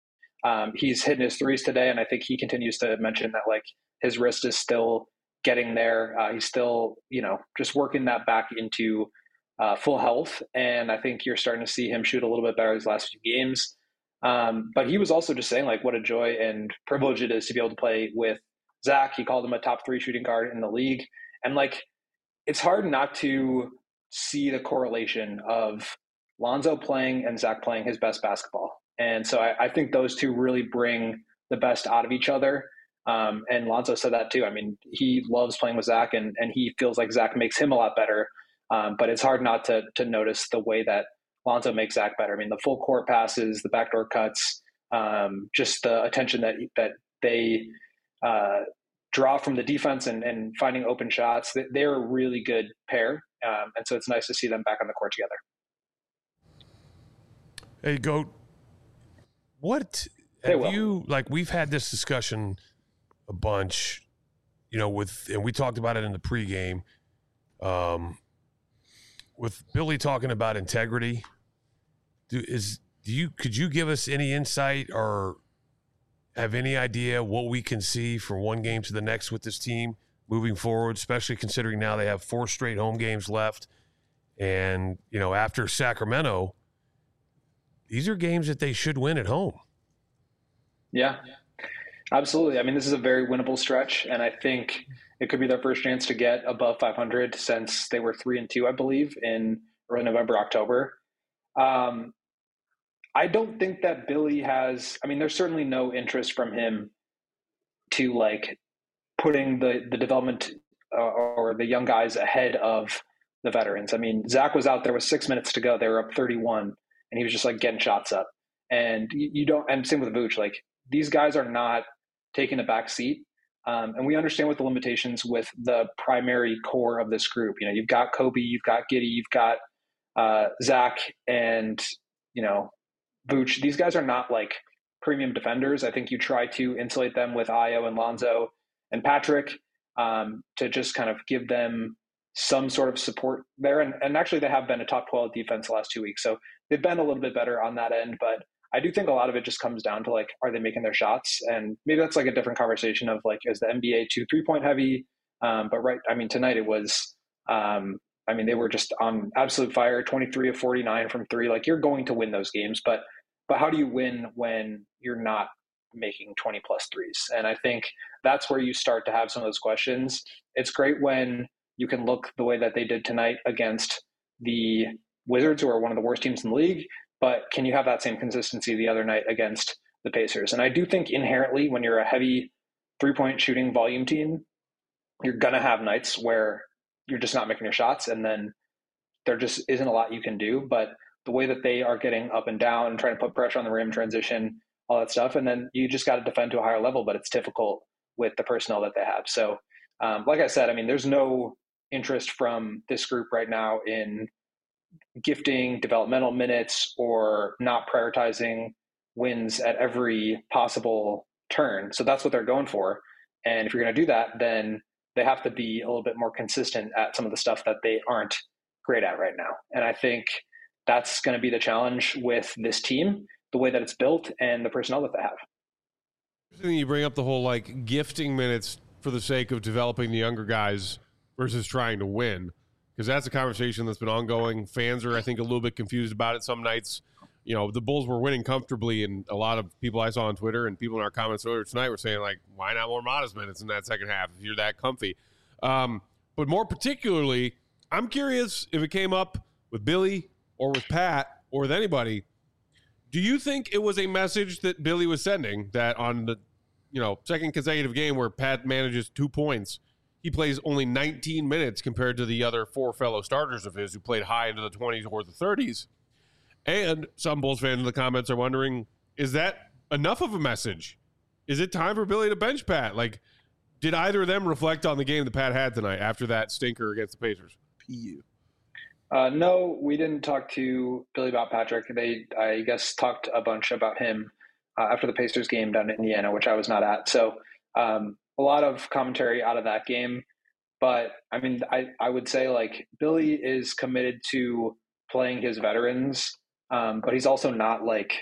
Um, he's hitting his threes today, and I think he continues to mention that like his wrist is still getting there. Uh, he's still, you know, just working that back into uh, full health, and I think you're starting to see him shoot a little bit better these last few games. Um, but he was also just saying like what a joy and privilege it is to be able to play with Zach. He called him a top three shooting guard in the league, and like it's hard not to see the correlation of Lonzo playing and Zach playing his best basketball. And so I, I think those two really bring the best out of each other. Um, and Lonzo said that too. I mean, he loves playing with Zach, and, and he feels like Zach makes him a lot better. Um, but it's hard not to to notice the way that Lonzo makes Zach better. I mean, the full court passes, the backdoor cuts, um, just the attention that that they uh, draw from the defense and, and finding open shots. They're a really good pair. Um, and so it's nice to see them back on the court together. Hey, Goat, what Hey, have Will. you, like, we've had this discussion a bunch, you know, with, and we talked about it in the pregame, um, with Billy talking about integrity. Do, is, do you, could you give us any insight or have any idea what we can see from one game to the next with this team moving forward, especially considering now they have four straight home games left. And, you know, after Sacramento, these are games that they should win at home. Yeah, absolutely. I mean, this is a very winnable stretch, and I think it could be their first chance to get above five hundred since they were three and two, I believe, in early November, October. Um, I don't think that Billy has, I mean, there's certainly no interest from him to like putting the, the development uh, or the young guys ahead of the veterans. I mean, Zach was out there with six minutes to go. They were up thirty-one, and he was just like getting shots up. And you, you don't, and same with Vooch, like these guys are not taking a back seat. Um, and we understand what the limitations with the primary core of this group. You know, you've got Kobe, you've got Giddey, you've got uh, Zach, and, you know, Vooch. These guys are not like premium defenders. I think you try to insulate them with Ayo and Lonzo and Patrick um, to just kind of give them some sort of support there. And, and actually they have been a top twelve defense the last two weeks. So they've been a little bit better on that end, but I do think a lot of it just comes down to like, are they making their shots? And maybe that's like a different conversation of like, is the N B A too three point heavy? Um, but right, I mean, tonight it was, um, I mean, they were just on absolute fire, twenty-three of forty-nine from three. Like you're going to win those games, but, but how do you win when you're not making twenty plus threes? And I think that's where you start to have some of those questions. It's great when you can look the way that they did tonight against the Wizards, who are one of the worst teams in the league. But can you have that same consistency the other night against the Pacers? And I do think inherently when you're a heavy three-point shooting volume team, you're going to have nights where you're just not making your shots, and then there just isn't a lot you can do. But the way that they are getting up and down and trying to put pressure on the rim, transition, all that stuff, and then you just got to defend to a higher level, but it's difficult with the personnel that they have. So um, like I said, I mean, there's no interest from this group right now in gifting developmental minutes or not prioritizing wins at every possible turn. So that's what they're going for. And if you're going to do that, then they have to be a little bit more consistent at some of the stuff that they aren't great at right now. And I think that's going to be the challenge with this team, the way that it's built and the personnel that they have. Interesting you bring up the whole like gifting minutes for the sake of developing the younger guys versus trying to win. Because that's a conversation that's been ongoing. Fans are, I think, a little bit confused about it some nights. You know, the Bulls were winning comfortably, and a lot of people I saw on Twitter and people in our comments earlier tonight were saying, like, why not more modest minutes in that second half if you're that comfy? Um, but more particularly, I'm curious if it came up with Billy or with Pat or with anybody. Do you think it was a message that Billy was sending that on the, you know, second consecutive game where Pat manages two points, he plays only nineteen minutes compared to the other four fellow starters of his who played high into the twenties or the thirties. And some Bulls fans in the comments are wondering, is that enough of a message? Is it time for Billy to bench Pat? Like, did either of them reflect on the game that Pat had tonight after that stinker against the Pacers? P U. Uh, no, we didn't talk to Billy about Patrick. They, I guess, talked a bunch about him uh, after the Pacers game down in Indiana, which I was not at. So, um, a lot of commentary out of that game, but I mean, I, I would say like Billy is committed to playing his veterans, um, but he's also not like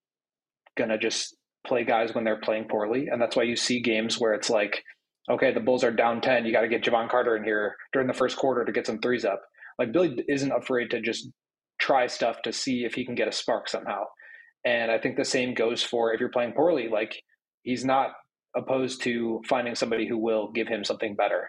gonna just play guys when they're playing poorly. And that's why you see games where it's like, okay, the Bulls are down ten. You got to get Javon Carter in here during the first quarter to get some threes up. Like Billy isn't afraid to just try stuff to see if he can get a spark somehow. And I think the same goes for if you're playing poorly, like he's not opposed to finding somebody who will give him something better.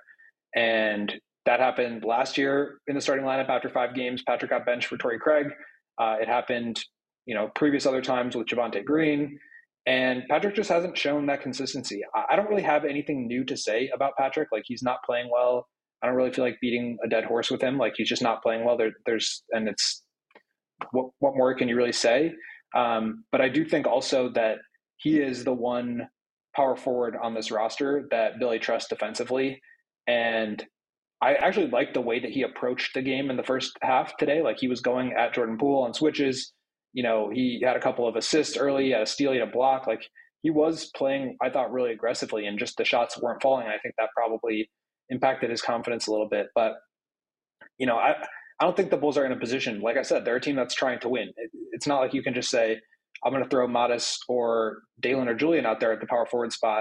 And that happened last year in the starting lineup after five games. Patrick got benched for Torrey Craig. Uh, it happened, you know, previous other times with Javonte Green. And Patrick just hasn't shown that consistency. I don't really have anything new to say about Patrick. Like he's not playing well. I don't really feel like beating a dead horse with him. Like he's just not playing well. There, there's, and it's, what, what more can you really say? Um, but I do think also that he is the one power forward on this roster that Billy trusts defensively. And I actually liked the way that he approached the game in the first half today. Like he was going at Jordan Poole on switches. You know, he had a couple of assists early, he had a steal, he had a block. Like he was playing, I thought, really aggressively, and just the shots weren't falling. I think that probably impacted his confidence a little bit. But, you know, I, I don't think the Bulls are in a position, like I said, they're a team that's trying to win. It, it's not like you can just say, I'm going to throw Modest or Dalen or Julian out there at the power forward spot,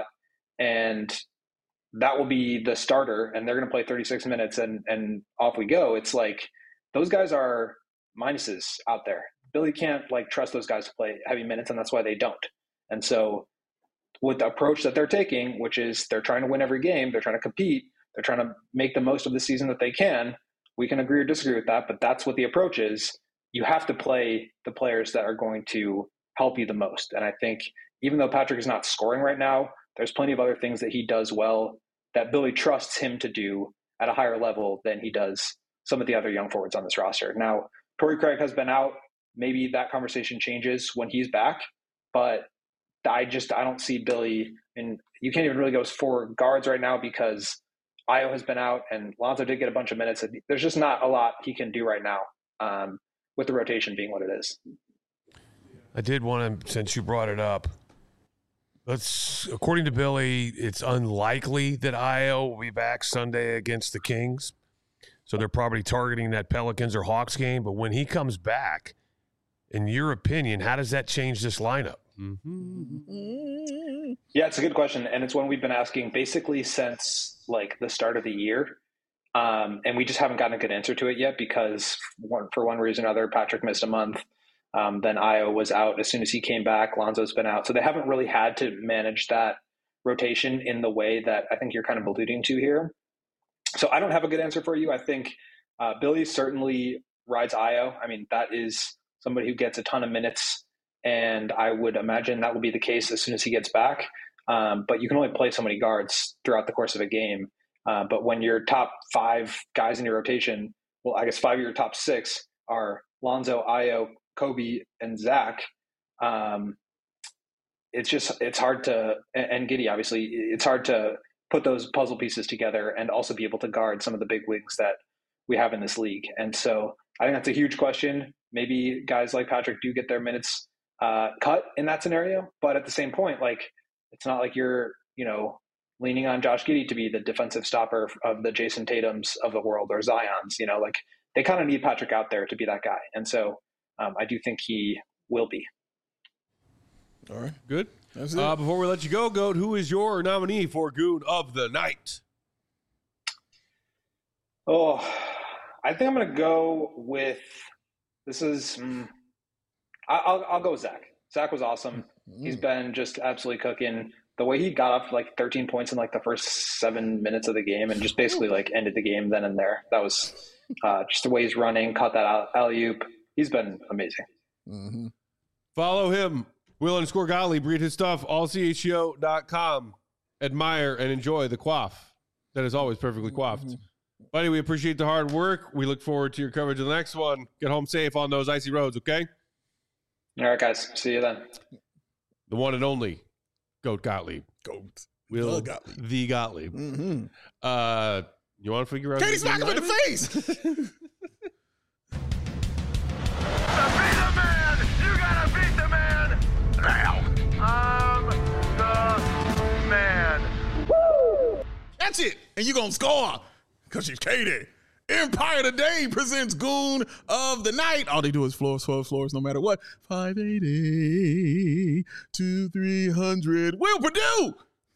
and that will be the starter, and they're going to play thirty-six minutes and, and off we go. It's like those guys are minuses out there. Billy can't like trust those guys to play heavy minutes, and that's why they don't. And so with the approach that they're taking, which is they're trying to win every game, they're trying to compete, they're trying to make the most of the season that they can. We can agree or disagree with that, but that's what the approach is. You have to play the players that are going to help you the most. And I think even though Patrick is not scoring right now, there's plenty of other things that he does well that Billy trusts him to do at a higher level than he does some of the other young forwards on this roster. Now, Torrey Craig has been out. Maybe that conversation changes when he's back, but I just I don't see Billy, and you can't even really go for guards right now because Ayo has been out and Lonzo did get a bunch of minutes. There's just not a lot he can do right now um, with the rotation being what it is. I did want to, since you brought it up, let's, according to Billy, it's unlikely that Ayo will be back Sunday against the Kings. So they're probably targeting that Pelicans or Hawks game. But when he comes back, in your opinion, how does that change this lineup? Mm-hmm. Yeah, it's a good question. And it's one we've been asking basically since like the start of the year. Um, and we just haven't gotten a good answer to it yet because one, for one reason or another, Patrick missed a month. Um, then Ayo was out as soon as he came back. Lonzo's been out. So they haven't really had to manage that rotation in the way that I think you're kind of alluding to here. So I don't have a good answer for you. I think uh, Billy certainly rides Ayo. I mean, that is somebody who gets a ton of minutes, and I would imagine that will be the case as soon as he gets back. Um, but you can only play so many guards throughout the course of a game. Uh, but when your top five guys in your rotation, well, I guess five of your top six are Lonzo, Ayo, Kobe, and Zach, um, it's just it's hard to and, and Giddey, obviously, it's hard to put those puzzle pieces together and also be able to guard some of the big wigs that we have in this league. And so I think that's a huge question. Maybe guys like Patrick do get their minutes uh, cut in that scenario, but at the same point, like it's not like you're you know leaning on Josh Giddey to be the defensive stopper of the Jason Tatums of the world or Zions. You know, like they kind of need Patrick out there to be that guy, and so um, I do think he will be. All right, good. That's it. Uh, before we let you go, Goat, who is your nominee for Goon of the Night? Oh, I think I'm going to go with this is. Mm, I'll I'll go with Zach. Zach was awesome. Mm. He's been just absolutely cooking. The way he got up like thirteen points in like the first seven minutes of the game and just basically like ended the game then and there. That was uh, just the way he's running, caught that alley-oop. He's been amazing. Mm-hmm. Follow him. Will underscore Gottlieb. Read his stuff. all c h o dot com. Admire and enjoy the quaff that is always perfectly quaffed. Mm-hmm. Buddy, we appreciate the hard work. We look forward to your coverage of the next one. Get home safe on those icy roads, okay? All right, guys. See you then. The one and only Goat Gottlieb. Goat. Will the Gottlieb. The Gottlieb. Mm-hmm. Uh, you want to figure out? Katie, smack him in the face. Be the man. You gotta beat the man now. I'm the man. Woo! That's it. And you're going to score because she's Katie. Empire Today presents Goon of the Night. All they do is floors, floors, floors, no matter what. five eighty to three hundred. Will Purdue.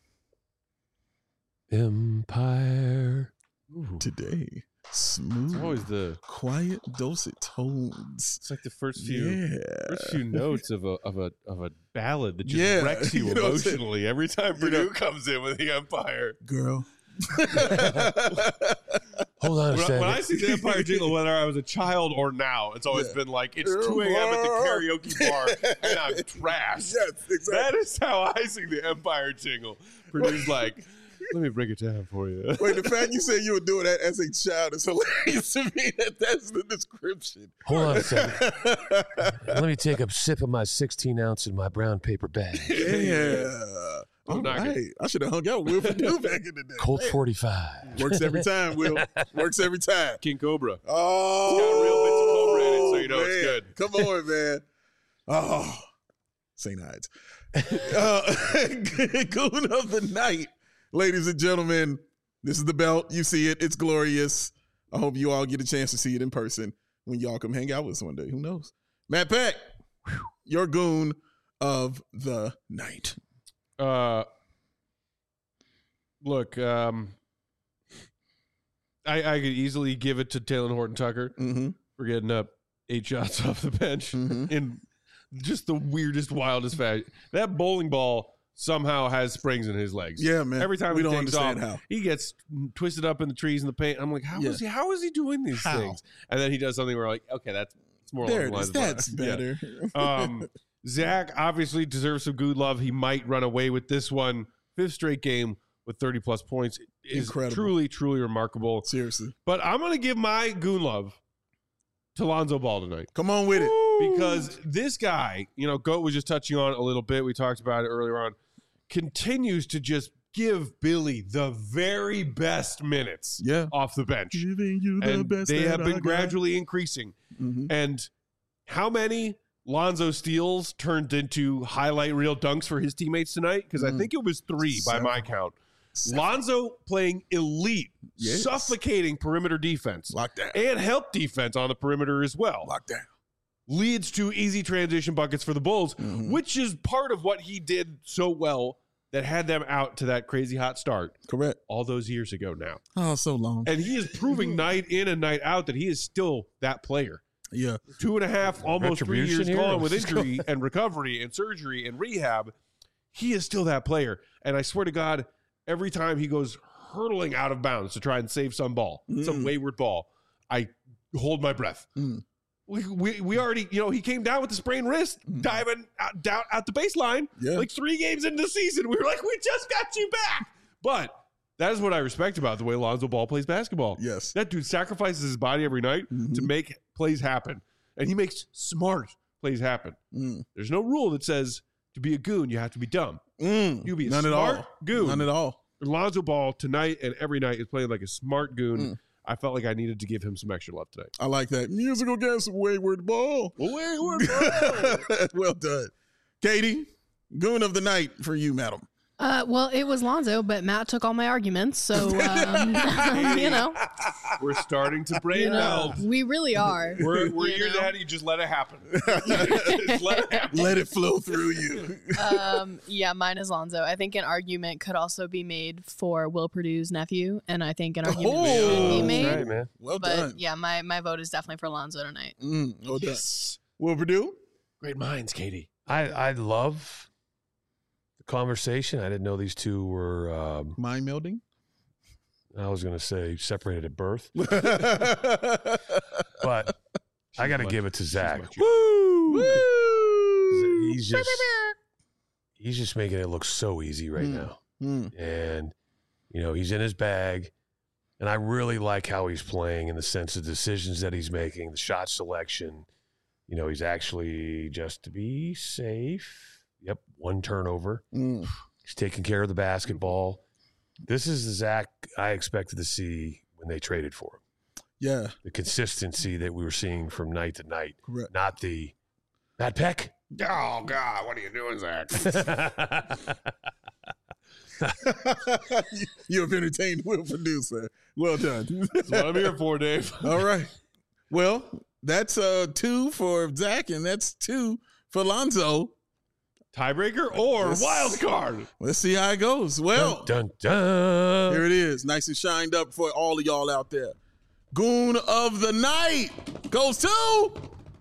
Empire Ooh. Today. Smooth. It's always the quiet, dulcet tones. It's like the first few, yeah. first few notes of a of a of a ballad that just yeah. wrecks you, you know emotionally every time Purdue you know, comes in with the Empire. Girl. Hold on a when, second. when I see the Empire jingle, whether I was a child or now, it's always yeah. been like, it's two a.m. at the karaoke bar and I'm trashed. Yes, exactly. That is how I sing the Empire jingle. Purdue's like, let me break it down for you. Wait, the fact you said you were doing that as a child is hilarious to me. That that's the description. Hold on a second. Let me take a sip of my sixteen ounce in my brown paper bag. Yeah. All right. I should have hung out with Will Purdue back in the day. Colt forty-five. Works every time, Will. Works every time. King Cobra. Oh. It's got real bits of Cobra in it, so you know man. it's good. Come on, man. Oh. Saint Ides. uh, Goon of the Night. Ladies and gentlemen, this is the belt. You see it. It's glorious. I hope you all get a chance to see it in person when y'all come hang out with us one day. Who knows? Matt Peck, your Goon of the Night. Uh, look, um, I, I could easily give it to Talen Horton-Tucker mm-hmm. for getting up eight shots off the bench mm-hmm. in just the weirdest, wildest fashion. That bowling ball somehow has springs in his legs. Yeah, man. Every time we he don't takes understand off, how he gets twisted up in the trees and the paint. I'm like, how yeah. is he? How is he doing these how? things? And then he does something where like, okay, that's it's more there along the lines is. That's of better. Yeah. Um, Zach obviously deserves some good love. He might run away with this one. Fifth straight game with thirty plus points. is Incredible. truly, truly remarkable. Seriously. But I'm going to give my goon love to Lonzo Ball tonight. Come on with it. Because this guy, you know, Goat was just touching on it a little bit. We talked about it earlier on. Continues to just give Billy the very best minutes Yeah. off the bench. Giving you the And best they that have been I got. gradually increasing. Mhm. And how many Lonzo steals turned into highlight reel dunks for his teammates tonight? Because I Mm. think it was three by Seven. my count. Seven. Lonzo playing elite, Yes. suffocating perimeter defense Lockdown. and help defense on the perimeter as well. Lockdown. Leads to easy transition buckets for the Bulls, Mhm. which is part of what he did so well that had them out to that crazy hot start Correct. all those years ago now. Oh, so long. And he is proving night in and night out that he is still that player. Yeah. Two and a half, almost three Retribution years here? gone with Let's go. injury and recovery and surgery and rehab. He is still that player. And I swear to God, every time he goes hurtling out of bounds to try and save some ball, some Mm. wayward ball, I hold my breath. Mm. We, we we already, you know, he came down with the sprained wrist, Mm. diving out, down at the baseline, Yeah. like three games into the season. We were like, we just got you back. But that is what I respect about the way Lonzo Ball plays basketball. Yes. That dude sacrifices his body every night Mhm. to make plays happen. And he makes smart plays happen. Mm. There's no rule that says to be a goon, you have to be dumb. Mm. You be a None at smart all. goon. None at all. Lonzo Ball tonight and every night is playing like a smart goon. Mm. I felt like I needed to give him some extra love tonight. I like that. Musical guest, Wayward Ball. Wayward Well done. Katie, goon of the night for you, madam. Uh, well, it was Lonzo, but Matt took all my arguments, so um, you know, We're starting to brain you know, melt. we really are. We're, we're you years know? ahead. You just let it happen. Just let it happen. Let it flow through you. um, yeah, mine is Lonzo. I think an argument could also be made for Will Purdue's nephew, and I think an argument Oh, should be that's made. Right, man. Well But done. yeah, my, my vote is definitely for Lonzo tonight. Mm, well done. Yes. Will Purdue? Great minds, Katie. I, I love the conversation. I didn't know these two were, um, Mind melding? I was going to say separated at birth, Woo! but I got to give it to Zach. Woo! He's just, he's just making it look so easy right Mm. now. Mm. And, you know, he's in his bag. And I really like how he's playing in the sense of decisions that he's making, the shot selection. You know, he's actually, just to be safe, yep, one turnover. Mm. He's taking care of the basketball. This is the Zach I expected to see when they traded for him. Yeah, The consistency that we were seeing from night to night, correct. not the Matt Peck. Oh, God. What are you doing, Zach? You have entertained Will Purdue, sir. Well done. That's what I'm here for, Dave. All right. Well, that's uh two for Zach, and that's two for Lonzo. Tiebreaker or Yes. wild card? Let's see how it goes. Well, dun, dun, here dun. it is, nice and shined up for all of y'all out there. Goon of the night goes to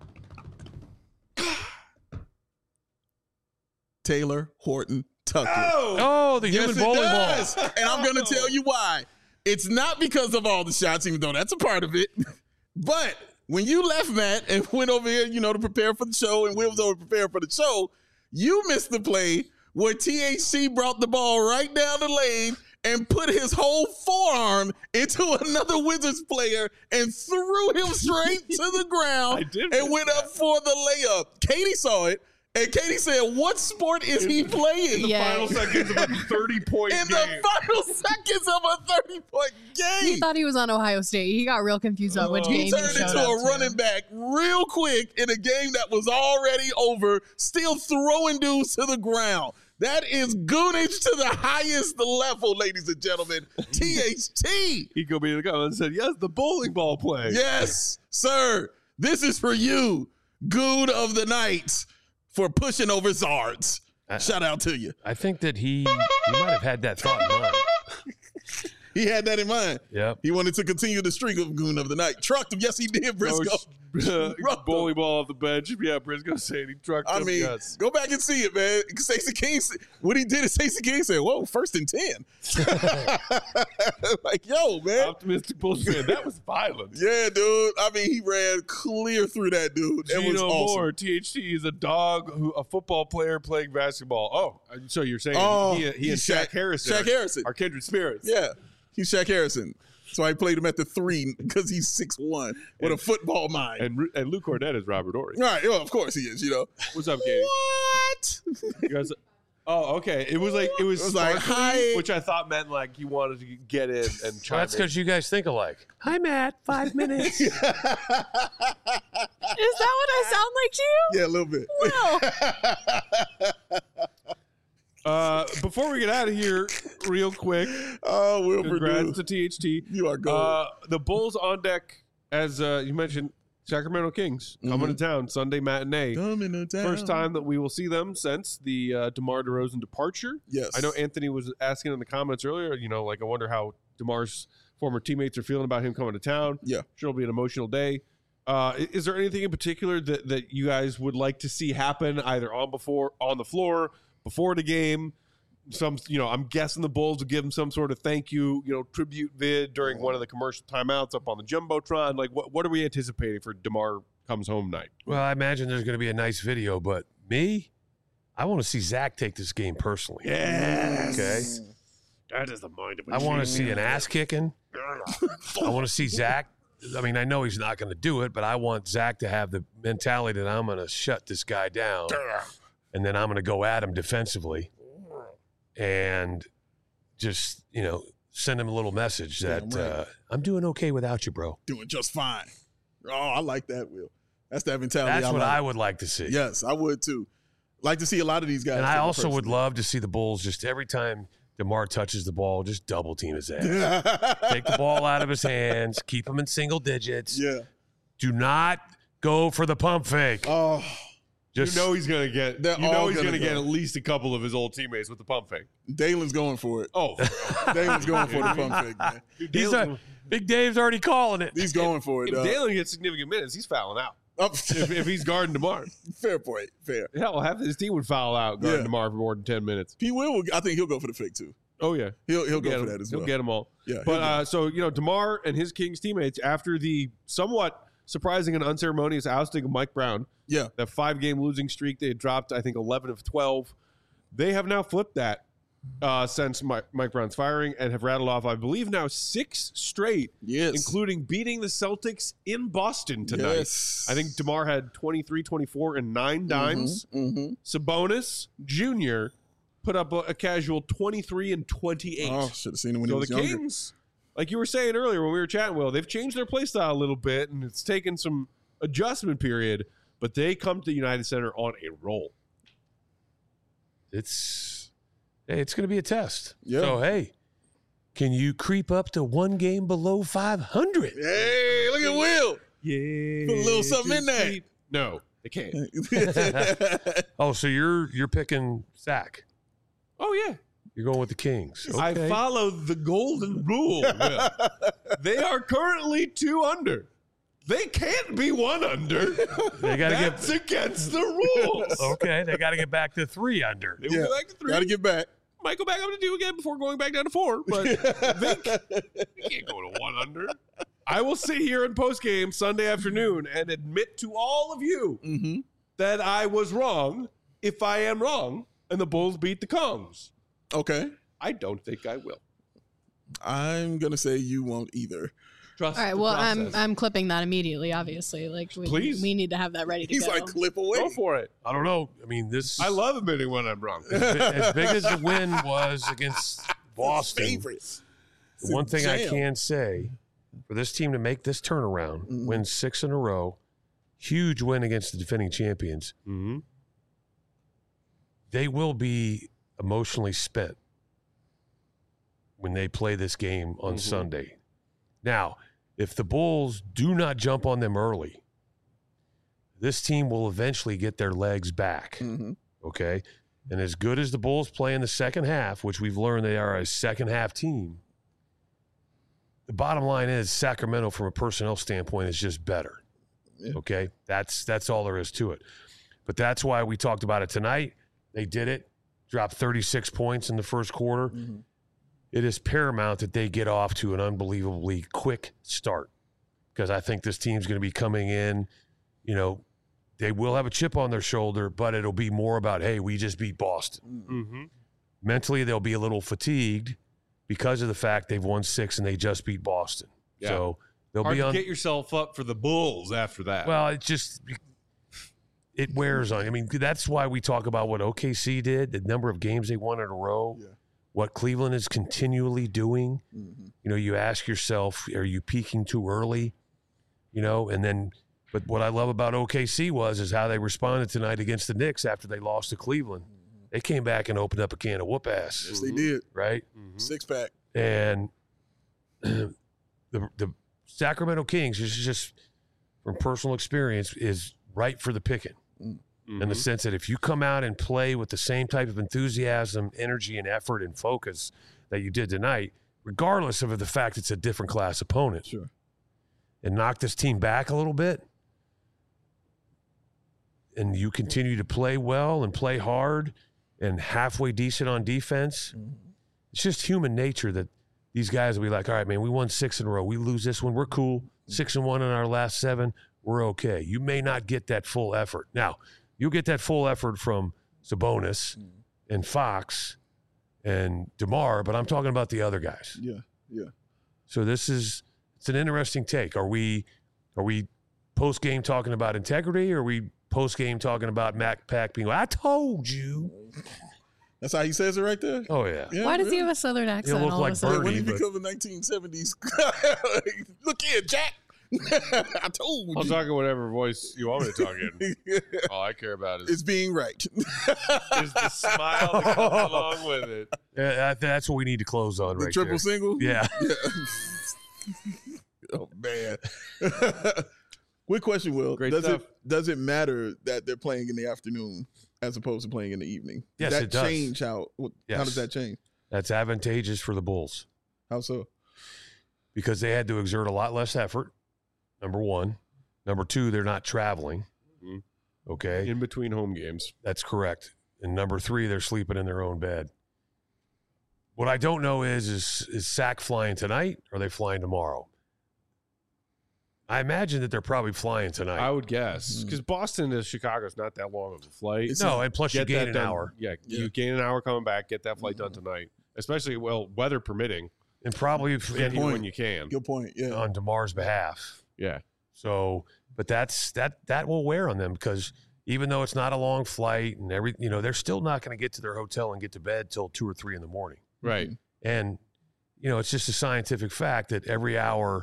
Taylor Horton Tucker. Oh! Oh, the human Yes, it bowling does. ball. And I'm going to tell you why. It's not because of all the shots, even though that's a part of it. But when you left, Matt, and went over here, you know, to prepare for the show, and Will was over preparing for the show, you missed the play where T H C brought the ball right down the lane and put his whole forearm into another Wizards player and threw him straight to the ground I did and miss went that. up for the layup. Katie saw it, and Katie said, "What sport is he playing?" Yeah. Final seconds of a thirty-point In game. the final seconds of a thirty-point He game. thought he was on Ohio State. He got real confused about which Oh. game He he turned showed into up a to. running back real quick in a game that was already over, still throwing dudes to the ground. That is goonage to the highest level, ladies and gentlemen. T H T. He go be the guy and said, yes, the bowling ball play. Yes, sir. This is for you, goon of the night, for pushing over Zards. I- Shout out to you. I think that he, he might have had that thought in mind. He had that in mind. Yep. He wanted to continue the streak of goon of the night. Trucked him. Yes, he did, Briscoe. Uh, Roughed bowling ball off the bench. Yeah, Briscoe said he trucked I him. mean, yes. go back and see it, man. Stacey King, what he did is Stacey King said, "Whoa, first and ten." Like, yo, man. Optimistic Bulls fan. That was violent. Yeah, dude. I mean, he ran clear through that dude. It was Gino awesome. Moore, T H T is a dog, who a football player playing basketball. Oh, so you're saying Oh, he, he and he's Shaq, Shaq- Harrison, Shaq are, Harrison. are kindred spirits? Yeah. He's Shaq Harrison. So I played him at the three because he's six one with a football mind. And and Luke Cornett is Robert Ory. Right, well, of course he is, you know. What's up, Katie? What? You guys, oh, okay. It was like it was, It was like, sparkly, hi. which I thought meant like he wanted to get in and Well, chime that's in. because you guys think alike. Hi, Matt. Five minutes. Is that what I sound like to you? Yeah, a little bit. Wow. Uh, before we get out of here, real quick, Oh, Will congrats Purdue. to T H T. You are gold. Uh, the Bulls on deck, as uh, you mentioned, Sacramento Kings coming Mhm. to town Sunday matinee. Coming to town. First time that we will see them since the uh, DeMar DeRozan departure. Yes. I know Anthony was asking in the comments earlier, you know, like I wonder how DeMar's former teammates are feeling about him coming to town. Yeah. Sure it'll be an emotional day. Uh, i- is there anything in particular that, that you guys would like to see happen either on before on the floor, before the game? Some, you know, I'm guessing the Bulls will give him some sort of thank you, you know, tribute vid during one of the commercial timeouts up on the Jumbotron. Like, what, what are we anticipating for DeMar comes home night? Well, I imagine there's going to be a nice video, but me, I want to see Zach take this game personally. Yes. Okay. That is the mind of a I want to champion. see an ass kicking. I want to see Zach. I mean, I know he's not going to do it, but I want Zach to have the mentality that I'm going to shut this guy down, and then I'm going to go at him defensively, and just you know send him a little message that Damn right. uh, I'm doing okay without you, bro. Doing just fine. Oh, I like that, Will. That's that mentality. That's I what like. I would like to see. Yes, I would too. Like to see a lot of these guys. And take I it also would personally. love to see the Bulls just every time DeMar touches the ball, just double team his ass. Take the ball out of his hands, keep him in single digits. Yeah. Do not go for the pump fake. Oh, Just you know he's gonna get. They're You know all he's gonna gonna, get go. at least a couple of his old teammates with the pump fake. Dalen's going for it. Oh, Dalen's going for the pump fake, man. he's a, Big Dave's already calling it. He's going for it. if Uh, Dalen gets significant minutes, he's fouling out. oh, If, if he's guarding DeMar, fair point. Fair. hell, half his team would foul out guarding Yeah. DeMar for more than ten minutes. He will. I think he'll go for the fake too. Oh yeah, He'll he'll go get for him. that as He'll well. get them all. Yeah. But he'll go. uh, so you know, DeMar and his Kings teammates, after the somewhat surprising and unceremonious ousting of Mike Brown, yeah. that five-game losing streak they had dropped, I think eleven of twelve. They have now flipped that uh, since Mike, Mike Brown's firing and have rattled off, I believe, now six straight, Yes. including beating the Celtics in Boston tonight. Yes. I think DeMar had twenty-three, twenty-four, and nine dimes. Mm-hmm. Sabonis Junior put up a, a casual twenty-three and twenty-eight. Oh, should have seen him when so he was the younger. Kings, like you were saying earlier when we were chatting, Will, they've changed their play style a little bit, and it's taken some adjustment period, but they come to the United Center on a roll. It's hey, it's going to be a test. Yeah. So hey, can you creep up to one game below five hundred? Hey, look at Will. Yeah. Put a little something in there. No, they can't. Oh, so you're you're picking Zach. Oh, yeah. You're going with the Kings. I Okay. follow the golden rule. Will. They are currently two under. They can't be one under. They got to That's get against the rules. okay. They got to get back to three under. They will Yeah. go back to three. Got to get back. Might go back up to two again before going back down to four, but they, they can't go to one under. I will sit here in post game Sunday afternoon and admit to all of you Mm-hmm. that I was wrong if I am wrong and the Bulls beat the Kongs. Okay. I don't think I will. I'm gonna say you won't either. Trust All right. the Well, I'm process. I'm clipping that immediately. Obviously, like we, Please. we need to have that ready to He's go. like clip away. Go for it. I don't know. I mean, this I love admitting when I'm wrong. as, bi- as big as the win was against Boston. Favorites. The one thing I Jam. can say for this team to make this turnaround, Mhm. win six in a row, huge win against the defending champions, Mm-hmm. they will be emotionally spent when they play this game on Mhm. Sunday. Now, if the Bulls do not jump on them early, this team will eventually get their legs back. Mhm. Okay. And as good as the Bulls play in the second half, which we've learned they are a second half team, the bottom line is Sacramento, from a personnel standpoint, is just better. Yeah. Okay. That's that's all there is to it. But that's why we talked about it tonight. They did it, dropped thirty-six points in the first quarter. Mhm. It is paramount that they get off to an unbelievably quick start, because I think this team's going to be coming in, you know, they will have a chip on their shoulder, but it'll be more about, hey, we just beat Boston. Mm-hmm. Mentally, they'll be a little fatigued because of the fact they've won six and they just beat Boston. Yeah. So they'll Hard be to on. get yourself up for the Bulls after that. Well, it just it wears on. I mean, that's why we talk about what O K C did, the number of games they won in a row, Yeah. what Cleveland is continually doing. Mm-hmm. You know, you ask yourself, are you peaking too early? You know, and then, but what I love about O K C was is how they responded tonight against the Knicks after they lost to Cleveland. They came back and opened up a can of whoop ass, Yes, they did. right? Mhm. Six pack. And the the Sacramento Kings is just from personal experience is right for the picking. Mhm. In the sense that if you come out and play with the same type of enthusiasm, energy, and effort and focus that you did tonight, regardless of the fact it's a different class opponent, Sure. and knock this team back a little bit, and you continue to play well and play hard and halfway decent on defense, it's just human nature that these guys will be like, all right, man, we won six in a row. We lose this one, we're cool. Six and one in our last seven, we're okay. You may not get that full effort. Now, you'll get that full effort from Sabonis and Fox and DeMar, but I'm talking about the other guys. Yeah. Yeah. So this is it's an interesting take. Are we are we post game talking about integrity, or are we post game talking about Mac Pack being like, I told you? That's how he says it right there. Oh yeah. Yeah, Why does he really? have a southern accent? look all like of a sudden? Bernie. When he but- become the nineteen seventies, look here, Jack. I told I'll you. talk in whatever voice you want me to talk in. All I care about is, It's being right. is the smile that comes along with it. Yeah, that- that's what we need to close on The right triple there. single. Yeah. Oh man. Quick question, Will. Great does stuff. it does it matter that they're playing in the afternoon as opposed to playing in the evening? Yes, does that it does. change how what, how Yes. does that change? That's advantageous for the Bulls How so? because they had to exert a lot less effort. Number one. Number two, they're not traveling. Mhm. Okay. In between home games. That's correct. And number three, they're sleeping in their own bed. What I don't know is, is is Sac flying tonight or are they flying tomorrow? I imagine that they're probably flying tonight. I would guess. Mhm. Because Boston to Chicago is not that long of a flight. It's no, not- and plus you Get gain that an done. hour. Yeah, Yeah. you gain an hour coming back. Get that flight done tonight. Especially, well, weather permitting. And probably if, Get here point. when you can. Good point. Yeah. on DeMar's behalf. Yeah. So, but that's that that will wear on them because even though it's not a long flight and every, you know, they're still not going to get to their hotel and get to bed till two or three in the morning. Right. And you know, it's just a scientific fact that every hour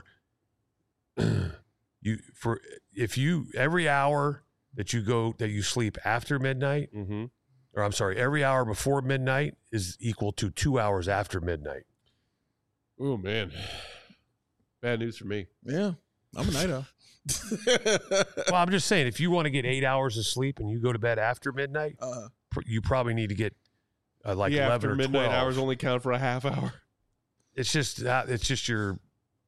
you for if you every hour that you go that you sleep after midnight, Mm-hmm. or I'm sorry, every hour before midnight is equal to two hours after midnight. Oh, man. Bad news for me. Yeah. I'm a night owl. Well, I'm just saying, if you want to get eight hours of sleep and you go to bed after midnight, uh, pr- you probably need to get uh, like the eleven after or midnight twelve. hours only count for a half hour. It's just that it's just your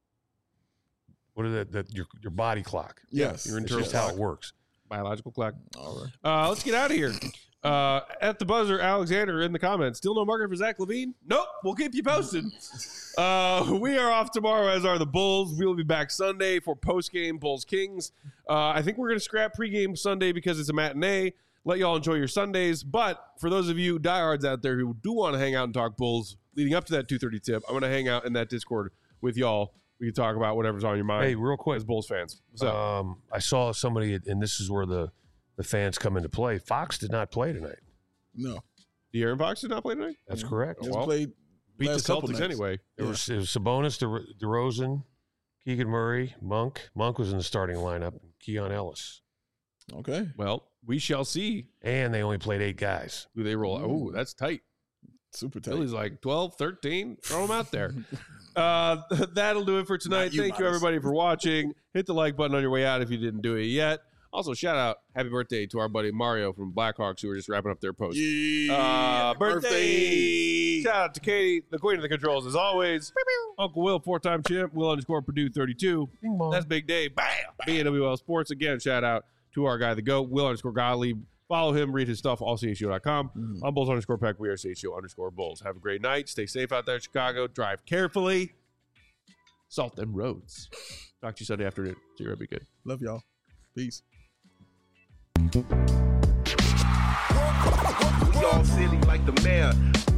what is it? That your your body clock. yes. Your It's internal just how clock. it works. Biological clock. All right. Uh, let's get out of here. Uh, at the buzzer, Alexander in the comments. Still no market for Zach LaVine? Nope. We'll keep you posted. Uh, we are off tomorrow, as are the Bulls. We will be back Sunday for post-game Bulls Kings. Uh, I think we're going to scrap pregame Sunday because it's a matinee. Let y'all enjoy your Sundays. But for those of you diehards out there who do want to hang out and talk Bulls leading up to that two thirty tip, I'm going to hang out in that Discord with y'all. We can talk about whatever's on your mind Hey, real quick, as Bulls fans. So um, I saw somebody, and this is where the the fans come into play. Fox did not play tonight. No. De'Aaron Fox did not play tonight? That's correct. Just well, played Beat the last couple Celtics nights. anyway. It Yeah. was it was Sabonis, De- DeRozan, Keegan Murray, Monk. Monk was in the starting lineup. Keon Ellis, Okay. Well, we shall see and they only played eight guys. who they roll out. Oh, that's tight. Super tight. Philly's like twelve, thirteen. Throw them out there. Uh, that'll do it for tonight. Not you, Thank you, Miles. everybody, for watching. Hit the like button on your way out if you didn't do it yet. Also, shout out, happy birthday to our buddy Mario from Blackhawks, who are just wrapping up their post. Yeah. Uh, birthday. Shout out to Katie, the queen of the controls, as always. Uncle Will, four-time champ. Will underscore Purdue thirty-two. Bing bong. That's Big Dave. Bam. B N W L Sports. Again, shout out to our guy, the GOAT, Will underscore Gottlieb. Follow him, read his stuff, all C H U dot com. Mhm. I'm Bulls underscore Peck. We are C H U underscore Bulls. Have a great night. Stay safe out there in Chicago. Drive carefully. Salt them roads. Talk to you Sunday afternoon. See you. Be good. Love y'all. Peace. We all silly like the mayor.